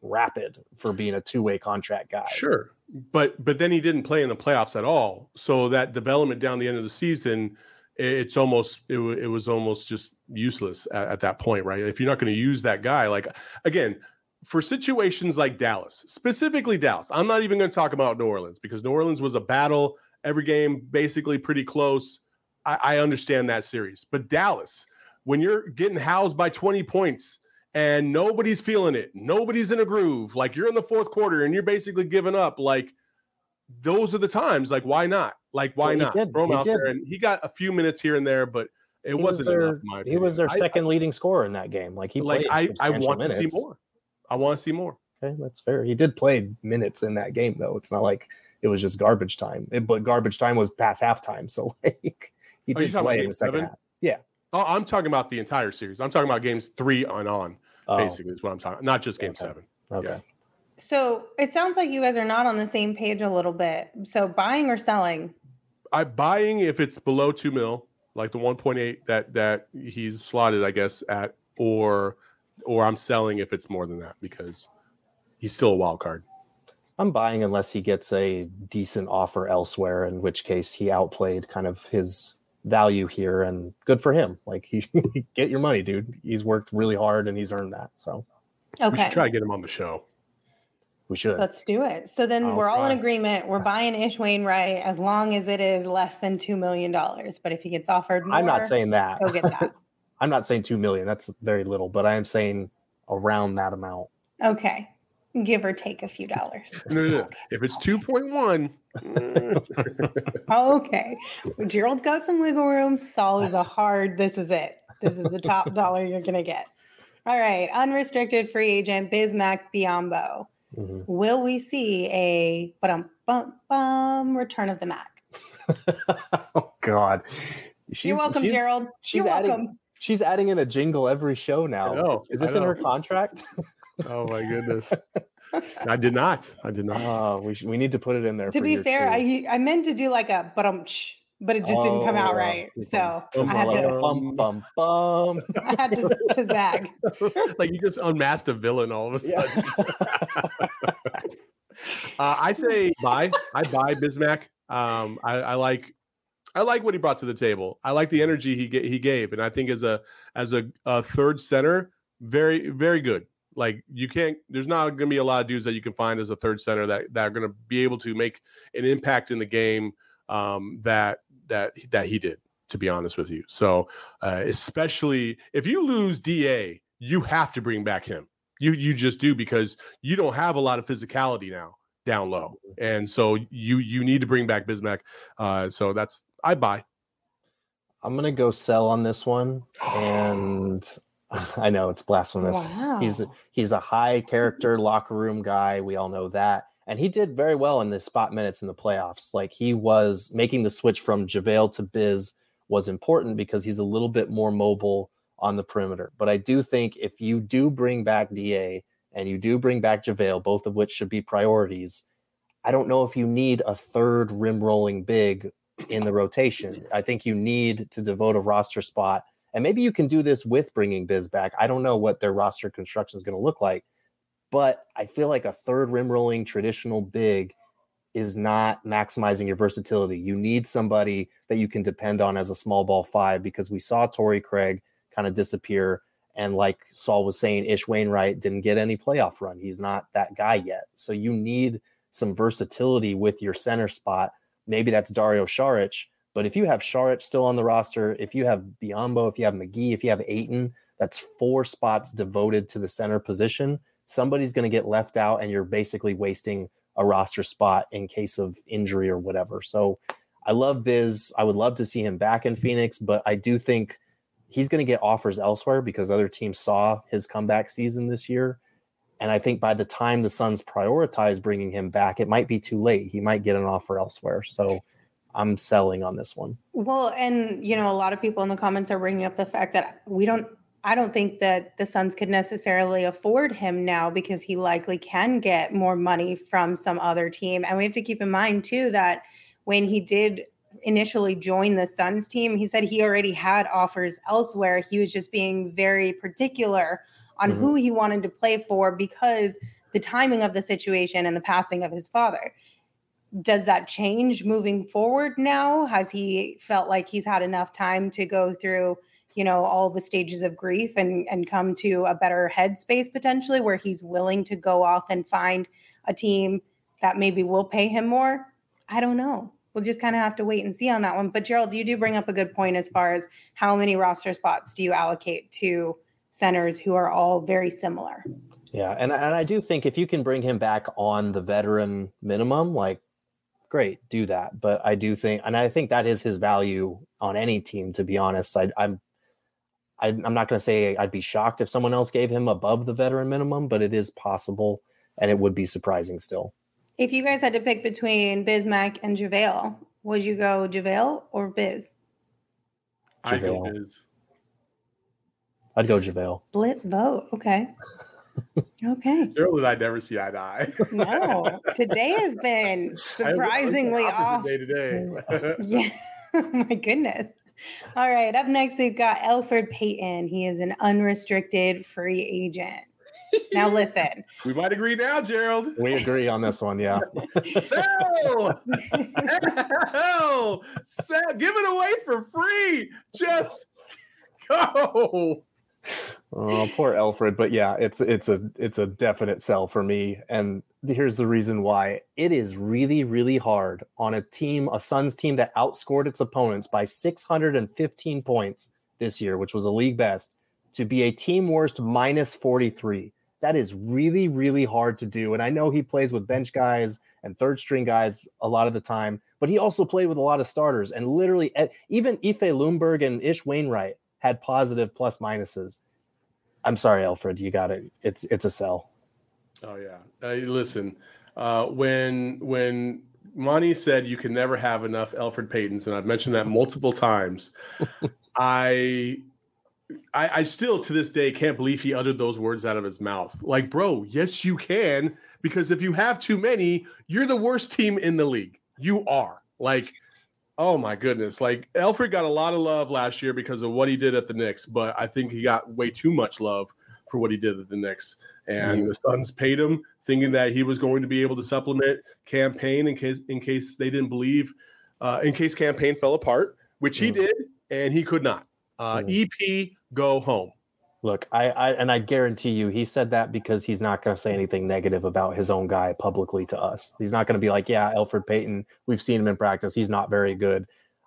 S3: rapid for being a two-way contract guy.
S2: Sure. But then he didn't play in the playoffs at all. So that development down the end of the season, it was almost just useless at that point, right? If you're not going to use that guy, like, again, for situations like Dallas, specifically Dallas, I'm not even going to talk about New Orleans because New Orleans was a battle, every game basically pretty close. I understand that series. But Dallas, when you're getting housed by 20 points and nobody's feeling it, nobody's in a groove, like you're in the fourth quarter and you're basically giving up, like those are the times, like why not? Like why not? Throw him out there. And he got a few minutes here and there, but it wasn't enough.
S3: He was their second leading scorer in that game. Like he played
S2: I want
S3: minutes.
S2: to see more. I want to see more.
S3: Okay, that's fair. He did play minutes in that game, though. It's not like it was just garbage time. But garbage time was past halftime, so like he did play in the second half. Yeah.
S2: Oh, I'm talking about the entire series. I'm talking about games 3 on. Basically, is what I'm talking. Not just game 7.
S3: Okay.
S2: Yeah.
S1: So it sounds like you guys are not on the same page a little bit. So buying or selling?
S2: I'm buying if it's below $2 million, like the 1.8 that he's slotted, I guess, at, or I'm selling if it's more than that because he's still a wild card.
S3: I'm buying unless he gets a decent offer elsewhere, in which case he outplayed kind of his value here, and good for him. Like he get your money, dude. He's worked really hard and he's earned that. So
S1: okay,
S2: we should try to get him on the show.
S3: We should.
S1: Let's do it. So then we're all in agreement. We're buying Ish Wainwright as long as it is less than $2 million. But if he gets offered more,
S3: I'm not saying that.
S1: Go get that.
S3: I'm not saying $2 million. That's very little, but I am saying around that amount.
S1: Okay. Give or take a few dollars.
S2: No. Okay. If it's 2.1.
S1: Okay. Gerald's got some wiggle room. Saul is this is it. This is the top dollar you're going to get. All right. Unrestricted free agent, Bismack Biyombo. Mm-hmm. Will we see a return of the Mac?
S3: Oh, God.
S1: You're welcome, Gerald. You're welcome.
S3: She's adding in a jingle every show now. Is this in her contract?
S2: Oh my goodness! I did not.
S3: We need to put it in there.
S1: To be fair, I meant to do like a but it just didn't come out right. So I had to I had to zag.
S2: Like you just unmasked a villain all of a sudden. I say buy. I buy Bismack. I like what he brought to the table. I like the energy he gave, and I think as a third center, very very good. Like there's not going to be a lot of dudes that you can find as a third center that are going to be able to make an impact in the game that he did, to be honest with you. So especially if you lose DA, you have to bring back him. You just do, because you don't have a lot of physicality now down low. And so you need to bring back Bismack. So I buy.
S3: I'm going to go sell on this one. And I know it's blasphemous.
S1: Wow.
S3: He's a high character locker room guy. We all know that. And he did very well in the spot minutes in the playoffs. Like he was making the switch from JaVale to Biz was important because he's a little bit more mobile on the perimeter. But I do think if you do bring back DA and you do bring back JaVale, both of which should be priorities, I don't know if you need a third rim rolling big in the rotation. I think you need to devote a roster spot. And maybe you can do this with bringing Biz back. I don't know what their roster construction is going to look like, but I feel like a third rim rolling traditional big is not maximizing your versatility. You need somebody that you can depend on as a small ball 5, because we saw Torrey Craig kind of disappear. And like Saul was saying, Ish Wainwright didn't get any playoff run. He's not that guy yet. So you need some versatility with your center spot. Maybe that's Dario Saric. But if you have Saric still on the roster, if you have Biyombo, if you have McGee, if you have Ayton, that's 4 spots devoted to the center position. Somebody's going to get left out, and you're basically wasting a roster spot in case of injury or whatever. So I love Biz. I would love to see him back in Phoenix, but I do think he's going to get offers elsewhere because other teams saw his comeback season this year. And I think by the time the Suns prioritize bringing him back, it might be too late. He might get an offer elsewhere. So I'm selling on this one.
S1: Well, and a lot of people in the comments are bringing up the fact that I don't think that the Suns could necessarily afford him now because he likely can get more money from some other team. And we have to keep in mind too, that when he did initially join the Suns team, he said he already had offers elsewhere. He was just being very particular on who he wanted to play for because the timing of the situation and the passing of his father. Does that change moving forward now? Has he felt like he's had enough time to go through, all the stages of grief and come to a better headspace potentially where he's willing to go off and find a team that maybe will pay him more? I don't know. We'll just kind of have to wait and see on that one. But Gerald, you do bring up a good point as far as how many roster spots do you allocate to centers who are all very similar?
S3: Yeah, and I do think if you can bring him back on the veteran minimum, like, great, do that. But I do think, and I think that is his value on any team, to be honest. I'm not going to say I'd be shocked if someone else gave him above the veteran minimum, but it is possible, and it would be surprising still.
S1: If you guys had to pick between Bismack and JaVale, would you go JaVale or Biz?
S2: I'd go Biz.
S3: I'd go JaVale.
S1: Split vote. Okay. Okay.
S2: Gerald and I never see eye to eye.
S1: No. Today has been surprisingly off.
S2: Day to day.
S1: Yeah. Oh my goodness. All right. Up next, we've got Elfrid Payton. He is an unrestricted free agent. Now listen.
S2: We might agree now, Gerald.
S3: We agree on this one, yeah.
S2: Hell! Give it away for free. Just go.
S3: Oh, poor Elfrid. But yeah, it's a definite sell for me. And here's the reason why. It is really, really hard on a Suns team that outscored its opponents by 615 points this year, which was a league best, to be a team worst minus 43. That is really, really hard to do. And I know he plays with bench guys and third string guys a lot of the time, but he also played with a lot of starters. And literally, even Ife Lundberg and Ish Wainwright had positive plus minuses. I'm sorry, Elfrid, you got it. It's a sell.
S2: Oh yeah. Listen, when Monty said you can never have enough Elfrid Paytons, and I've mentioned that multiple times, I still to this day can't believe he uttered those words out of his mouth. Like, bro, yes, you can, because if you have too many, you're the worst team in the league. You are. Like, oh my goodness. Like, Elfrid got a lot of love last year because of what he did at the Knicks, but I think he got way too much love for what he did at the Knicks. And the Suns paid him thinking that he was going to be able to supplement Cam Payne in case they didn't believe, in case Cam Payne fell apart, which he did, and he could not. EP, go home.
S3: Look, I guarantee you he said that because he's not going to say anything negative about his own guy publicly to us. He's not going to be like, yeah, Elfrid Payton, we've seen him in practice. He's not very good.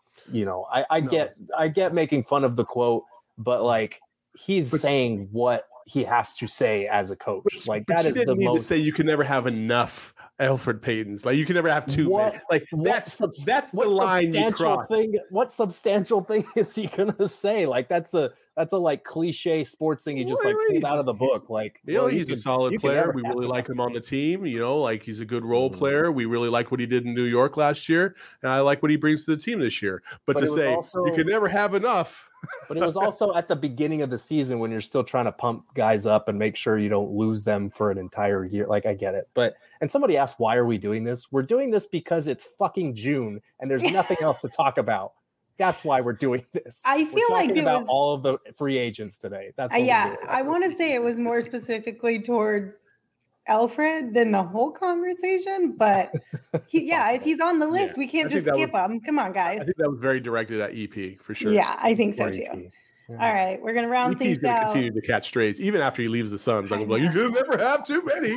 S3: I get making fun of the quote, but like he's saying what he has to say as a coach. Like that is the most. To say
S2: you can never have enough Elfrid Paytons. Like you can never have too many. Like that's the line you cross.
S3: What substantial thing is he gonna say? Like that's a like cliche sports thing he just like pulled out of the book. Like
S2: he's a solid player. We really like him on the team. Like he's a good role player. We really like what he did in New York last year, and I like what he brings to the team this year. But to say you can never have enough.
S3: But it was also at the beginning of the season when you're still trying to pump guys up and make sure you don't lose them for an entire year. Like I get it. And somebody asked, why are we doing this? We're doing this because it's fucking June and there's nothing else to talk about. That's why we're doing this.
S1: I feel like it
S3: about
S1: was
S3: all of the free agents today. That's
S1: I want to say it was more specifically towards Elfrid than the whole conversation, but if he's on the list, we can't just skip him. Come on, guys.
S2: I think that was very directed at EP for sure.
S1: Yeah, I think so too. Yeah. All right, we're gonna round things out.
S2: Continue to catch strays even after he leaves the Suns. I'm like, you can never have too many.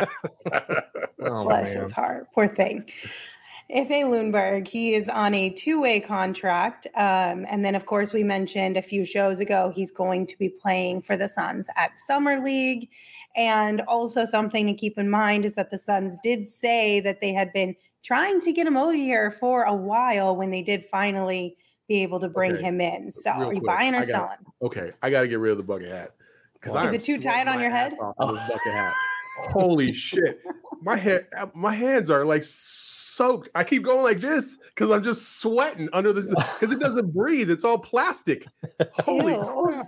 S1: Bless his heart, poor thing. Ife Lundberg, he is on a 2-way contract. And then, of course, we mentioned a few shows ago, he's going to be playing for the Suns at Summer League. And also something to keep in mind is that the Suns did say that they had been trying to get him over here for a while when they did finally be able to bring him in. So are you buying or selling?
S2: Okay, I got to get rid of the bucket hat.
S1: Is it too tight on your head?
S2: Bucket hat. Holy shit. My hands are like soaked. I keep going like this because I'm just sweating under this because it doesn't breathe. It's all plastic. Holy crap.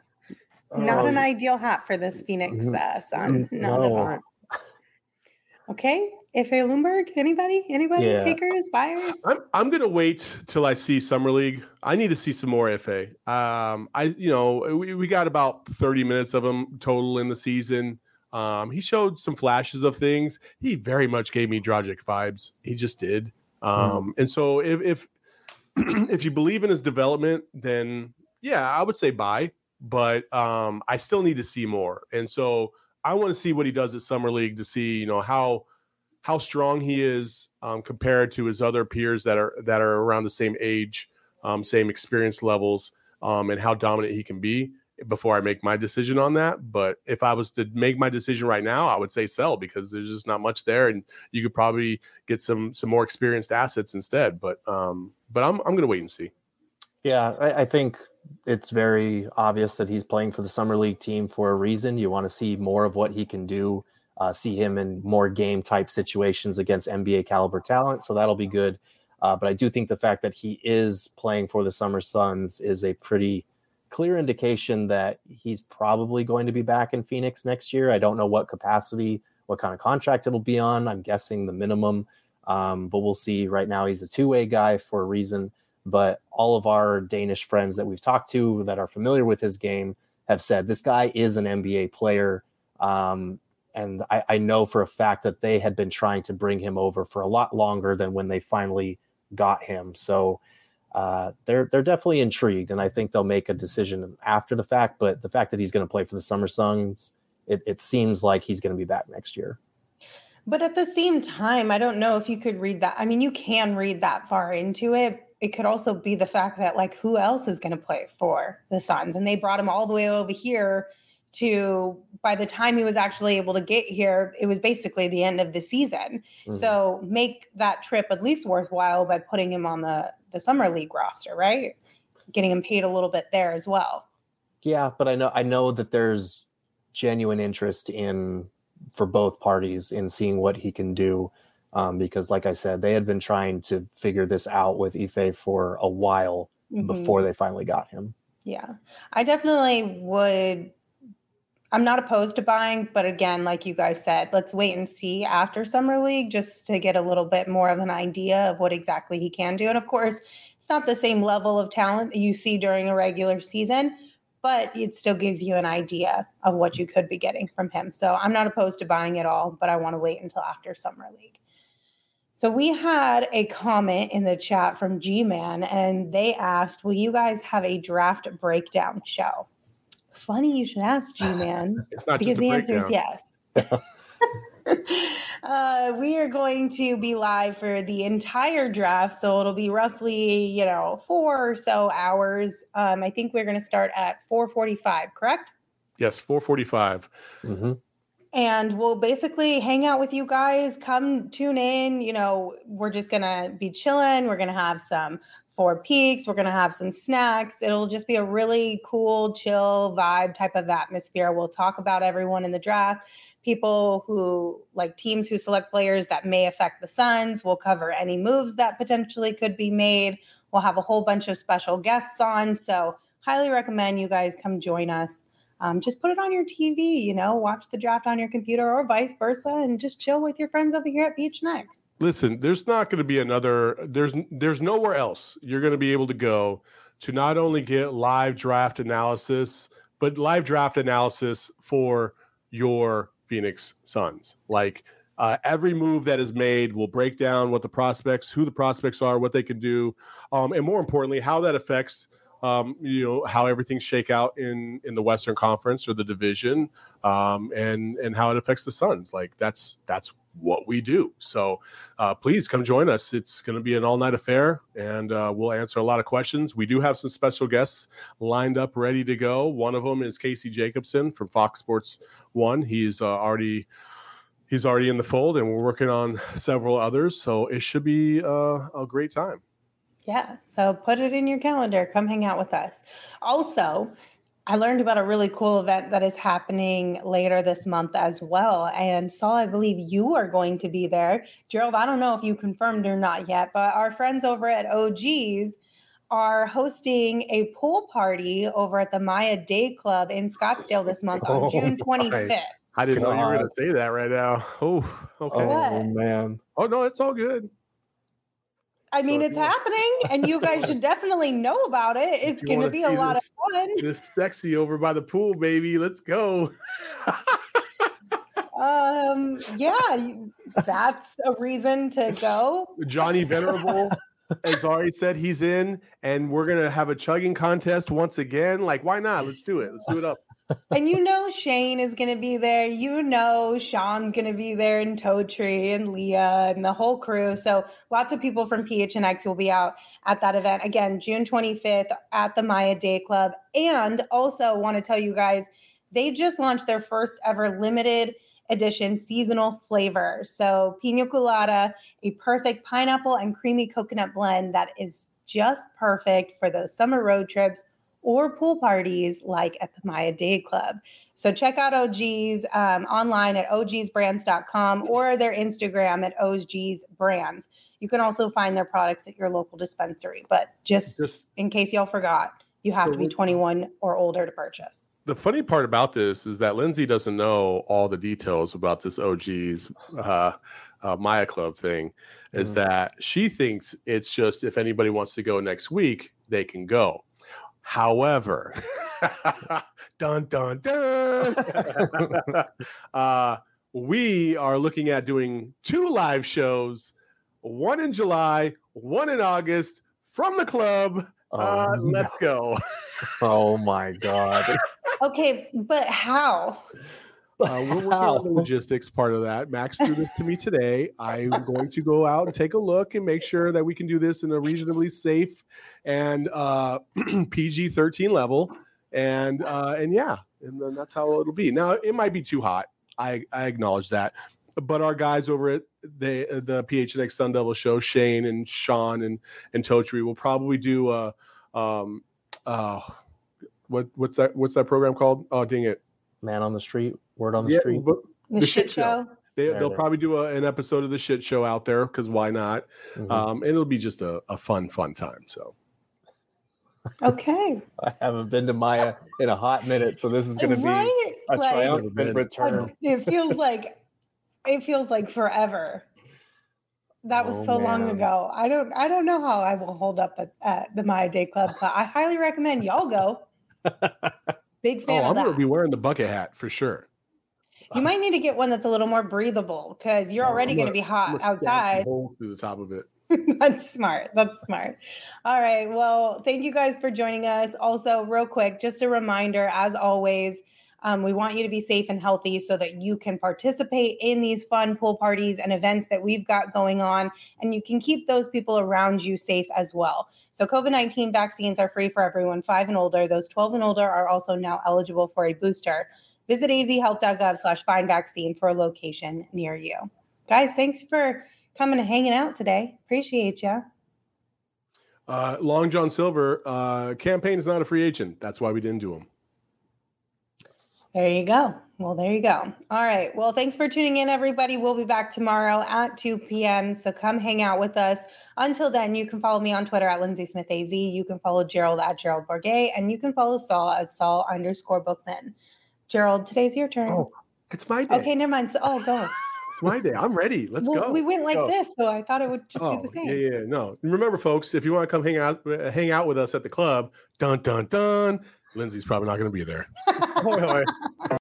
S2: Not
S1: an ideal hat for this Phoenix Sun. Not at all. Okay. Ife Lundberg, anybody?
S3: Yeah.
S1: Takers, buyers?
S2: I'm gonna wait till I see Summer League. I need to see some more Ife. We got about 30 minutes of him total in the season. He showed some flashes of things. He very much gave me Dragic vibes. He just did. And so if if you believe in his development, then yeah, I would say buy. But I still need to see more. And so I want to see what he does at Summer League to see, how strong he is compared to his other peers that are around the same age, same experience levels, and how dominant he can be before I make my decision on that. But if I was to make my decision right now, I would say sell, because there's just not much there, and you could probably get some more experienced assets instead. But I'm going to wait and see.
S3: Yeah, I think it's very obvious that he's playing for the Summer League team for a reason. You want to see more of what he can do. See him in more game type situations against NBA caliber talent. So that'll be good. But I do think the fact that he is playing for the Summer Suns is a pretty clear indication that he's probably going to be back in Phoenix next year. I don't know what capacity, what kind of contract it'll be on. I'm guessing the minimum, but we'll see. Right now, he's a two-way guy for a reason. But all of our Danish friends that we've talked to that are familiar with his game have said this guy is an NBA player. And I know for a fact that they had been trying to bring him over for a lot longer than when they finally got him. So they're definitely intrigued, and I think they'll make a decision after the fact. But the fact that he's going to play for the Summer Suns, it seems like he's going to be back next year.
S1: But at the same time, I don't know if you could read that. I mean, you can read that far into it. It could also be the fact that, like, who else is going to play for the Suns? And they brought him all the way over here to, by the time he was actually able to get here, it was basically the end of the season. Mm-hmm. So make that trip at least worthwhile by putting him on the Summer League roster, right? Getting him paid a little bit there as well.
S3: Yeah, but I know that there's genuine interest for both parties in seeing what he can do. Because like I said, they had been trying to figure this out with Ife for a while before they finally got him.
S1: Yeah, I definitely would. I'm not opposed to buying, but again, like you guys said, let's wait and see after Summer League just to get a little bit more of an idea of what exactly he can do. And of course, it's not the same level of talent that you see during a regular season, but it still gives you an idea of what you could be getting from him. So I'm not opposed to buying it all, but I want to wait until after Summer League. So we had a comment in the chat from G-Man, and they asked, will you guys have a draft breakdown show? Funny you should ask, G-Man.
S2: It's not
S1: because
S2: just
S1: the answer is yes. We are going to be live for the entire draft, so it'll be roughly 4 or so hours. I think we're going to start at 4:45, correct?
S2: Yes, 4:45.
S3: Mm-hmm.
S1: And we'll basically hang out with you guys. Come tune in. We're just going to be chilling. We're going to have some Four Peaks. We're going to have some snacks. It'll just be a really cool, chill vibe type of atmosphere. We'll talk about everyone in the draft, people who like teams who select players that may affect the Suns. We'll cover any moves that potentially could be made. We'll have a whole bunch of special guests on. So highly recommend you guys come join us. Just put it on your TV, watch the draft on your computer or vice versa, and just chill with your friends over here at Beach Next.
S2: Listen, there's not going to be there's nowhere else you're going to be able to go to not only get live draft analysis, but live draft analysis for your Phoenix Suns. Like every move that is made, will break down who the prospects are, what they can do, and more importantly, how that affects how everything shake out in the Western Conference or the division, and how it affects the Suns. Like that's what we do. So please come join us. It's going to be an all-night affair, and we'll answer a lot of questions. We do have some special guests lined up, ready to go. One of them is Casey Jacobson from Fox Sports 1. He's already in the fold, and we're working on several others. So it should be a great time.
S1: Yeah, so put it in your calendar. Come hang out with us. Also, I learned about a really cool event that is happening later this month as well. And Saul, I believe you are going to be there. Gerald, I don't know if you confirmed or not yet, but our friends over at OGs are hosting a pool party over at the Maya Day Club in Scottsdale this month on June 25th.
S2: I didn't know you were going to say that right now. Oh, okay.
S3: Oh, man.
S2: Oh, no, it's all good.
S1: I mean, it's happening, and you guys should definitely know about it. It's going to be a lot of fun.
S2: It's sexy over by the pool, baby. Let's go.
S1: Yeah, that's a reason to go.
S2: Johnny Venerable, as already said, he's in, and we're going to have a chugging contest once again. Like, why not? Let's do it. Let's do it up.
S1: And Shane is going to be there. Sean's going to be there, and Totri and Leah and the whole crew. So lots of people from PHNX will be out at that event. Again, June 25th at the Maya Day Club. And also want to tell you guys, they just launched their first ever limited edition seasonal flavor. So Pina Colada, a perfect pineapple and creamy coconut blend that is just perfect for those summer road trips or pool parties like at the Maya Day Club. So check out OG's online at ogsbrands.com or their Instagram at ogsbrands. You can also find their products at your local dispensary. But just in case y'all forgot, you have to be 21 or older to purchase.
S2: The funny part about this is that Lindsay doesn't know all the details about this OG's Maya Club thing, is that she thinks it's just if anybody wants to go next week, they can go. However, dun, dun, dun. We are looking at doing 2 live shows, one in July, one in August from the club. Let's go.
S3: Oh my God.
S1: Okay, but how?
S2: We're working on the logistics part of that. Max threw this to me today. I'm going to go out and take a look and make sure that we can do this in a reasonably safe and PG-13 level. And then that's how it'll be. Now, it might be too hot. I acknowledge that. But our guys over at the PHNX Sun Devil show, Shane and Sean and Totri, will probably do what's that program called? Oh, dang it.
S3: Man on the Street, Word on the Street.
S1: The shit show.
S2: They'll probably do an episode of the shit show out there, because why not? And it'll be just a fun time. So.
S1: Okay.
S3: I haven't been to Maya in a hot minute, so this is going to be a triumphant return.
S1: It feels like forever. That was so long ago. I don't know how I will hold up at the Maya Day Club, but I highly recommend y'all go. Big fan of that. I'm
S2: going to be wearing the bucket hat for sure.
S1: You might need to get one that's a little more breathable, because you're already going to be hot outside.
S2: Through the top of it.
S1: That's smart. All right. Well, thank you guys for joining us. Also, real quick, just a reminder, as always, we want you to be safe and healthy so that you can participate in these fun pool parties and events that we've got going on, and you can keep those people around you safe as well. So COVID-19 vaccines are free for everyone 5 and older. Those 12 and older are also now eligible for a booster. Visit azhealth.gov/findvaccine for a location near you. Guys, thanks for coming and hanging out today. Appreciate you.
S2: Long John Silver, campaign is not a free agent. That's why we didn't do him.
S1: There you go. Well, there you go. All right. Well, thanks for tuning in, everybody. We'll be back tomorrow at 2 p.m. So come hang out with us. Until then, you can follow me on Twitter at Lindsay Smith AZ. You can follow Gerald at Gerald Bourget, and you can follow Saul at Saul_Bookman. Gerald, today's your turn.
S2: Oh, it's my day.
S1: Okay, never mind. Go.
S2: It's my day. I'm ready. Let's go.
S1: We went like this, so I thought it would just do the same.
S2: Yeah. No. Remember, folks, if you want to come hang out with us at the club, dun, dun, dun, Lindsay's probably not going to be there.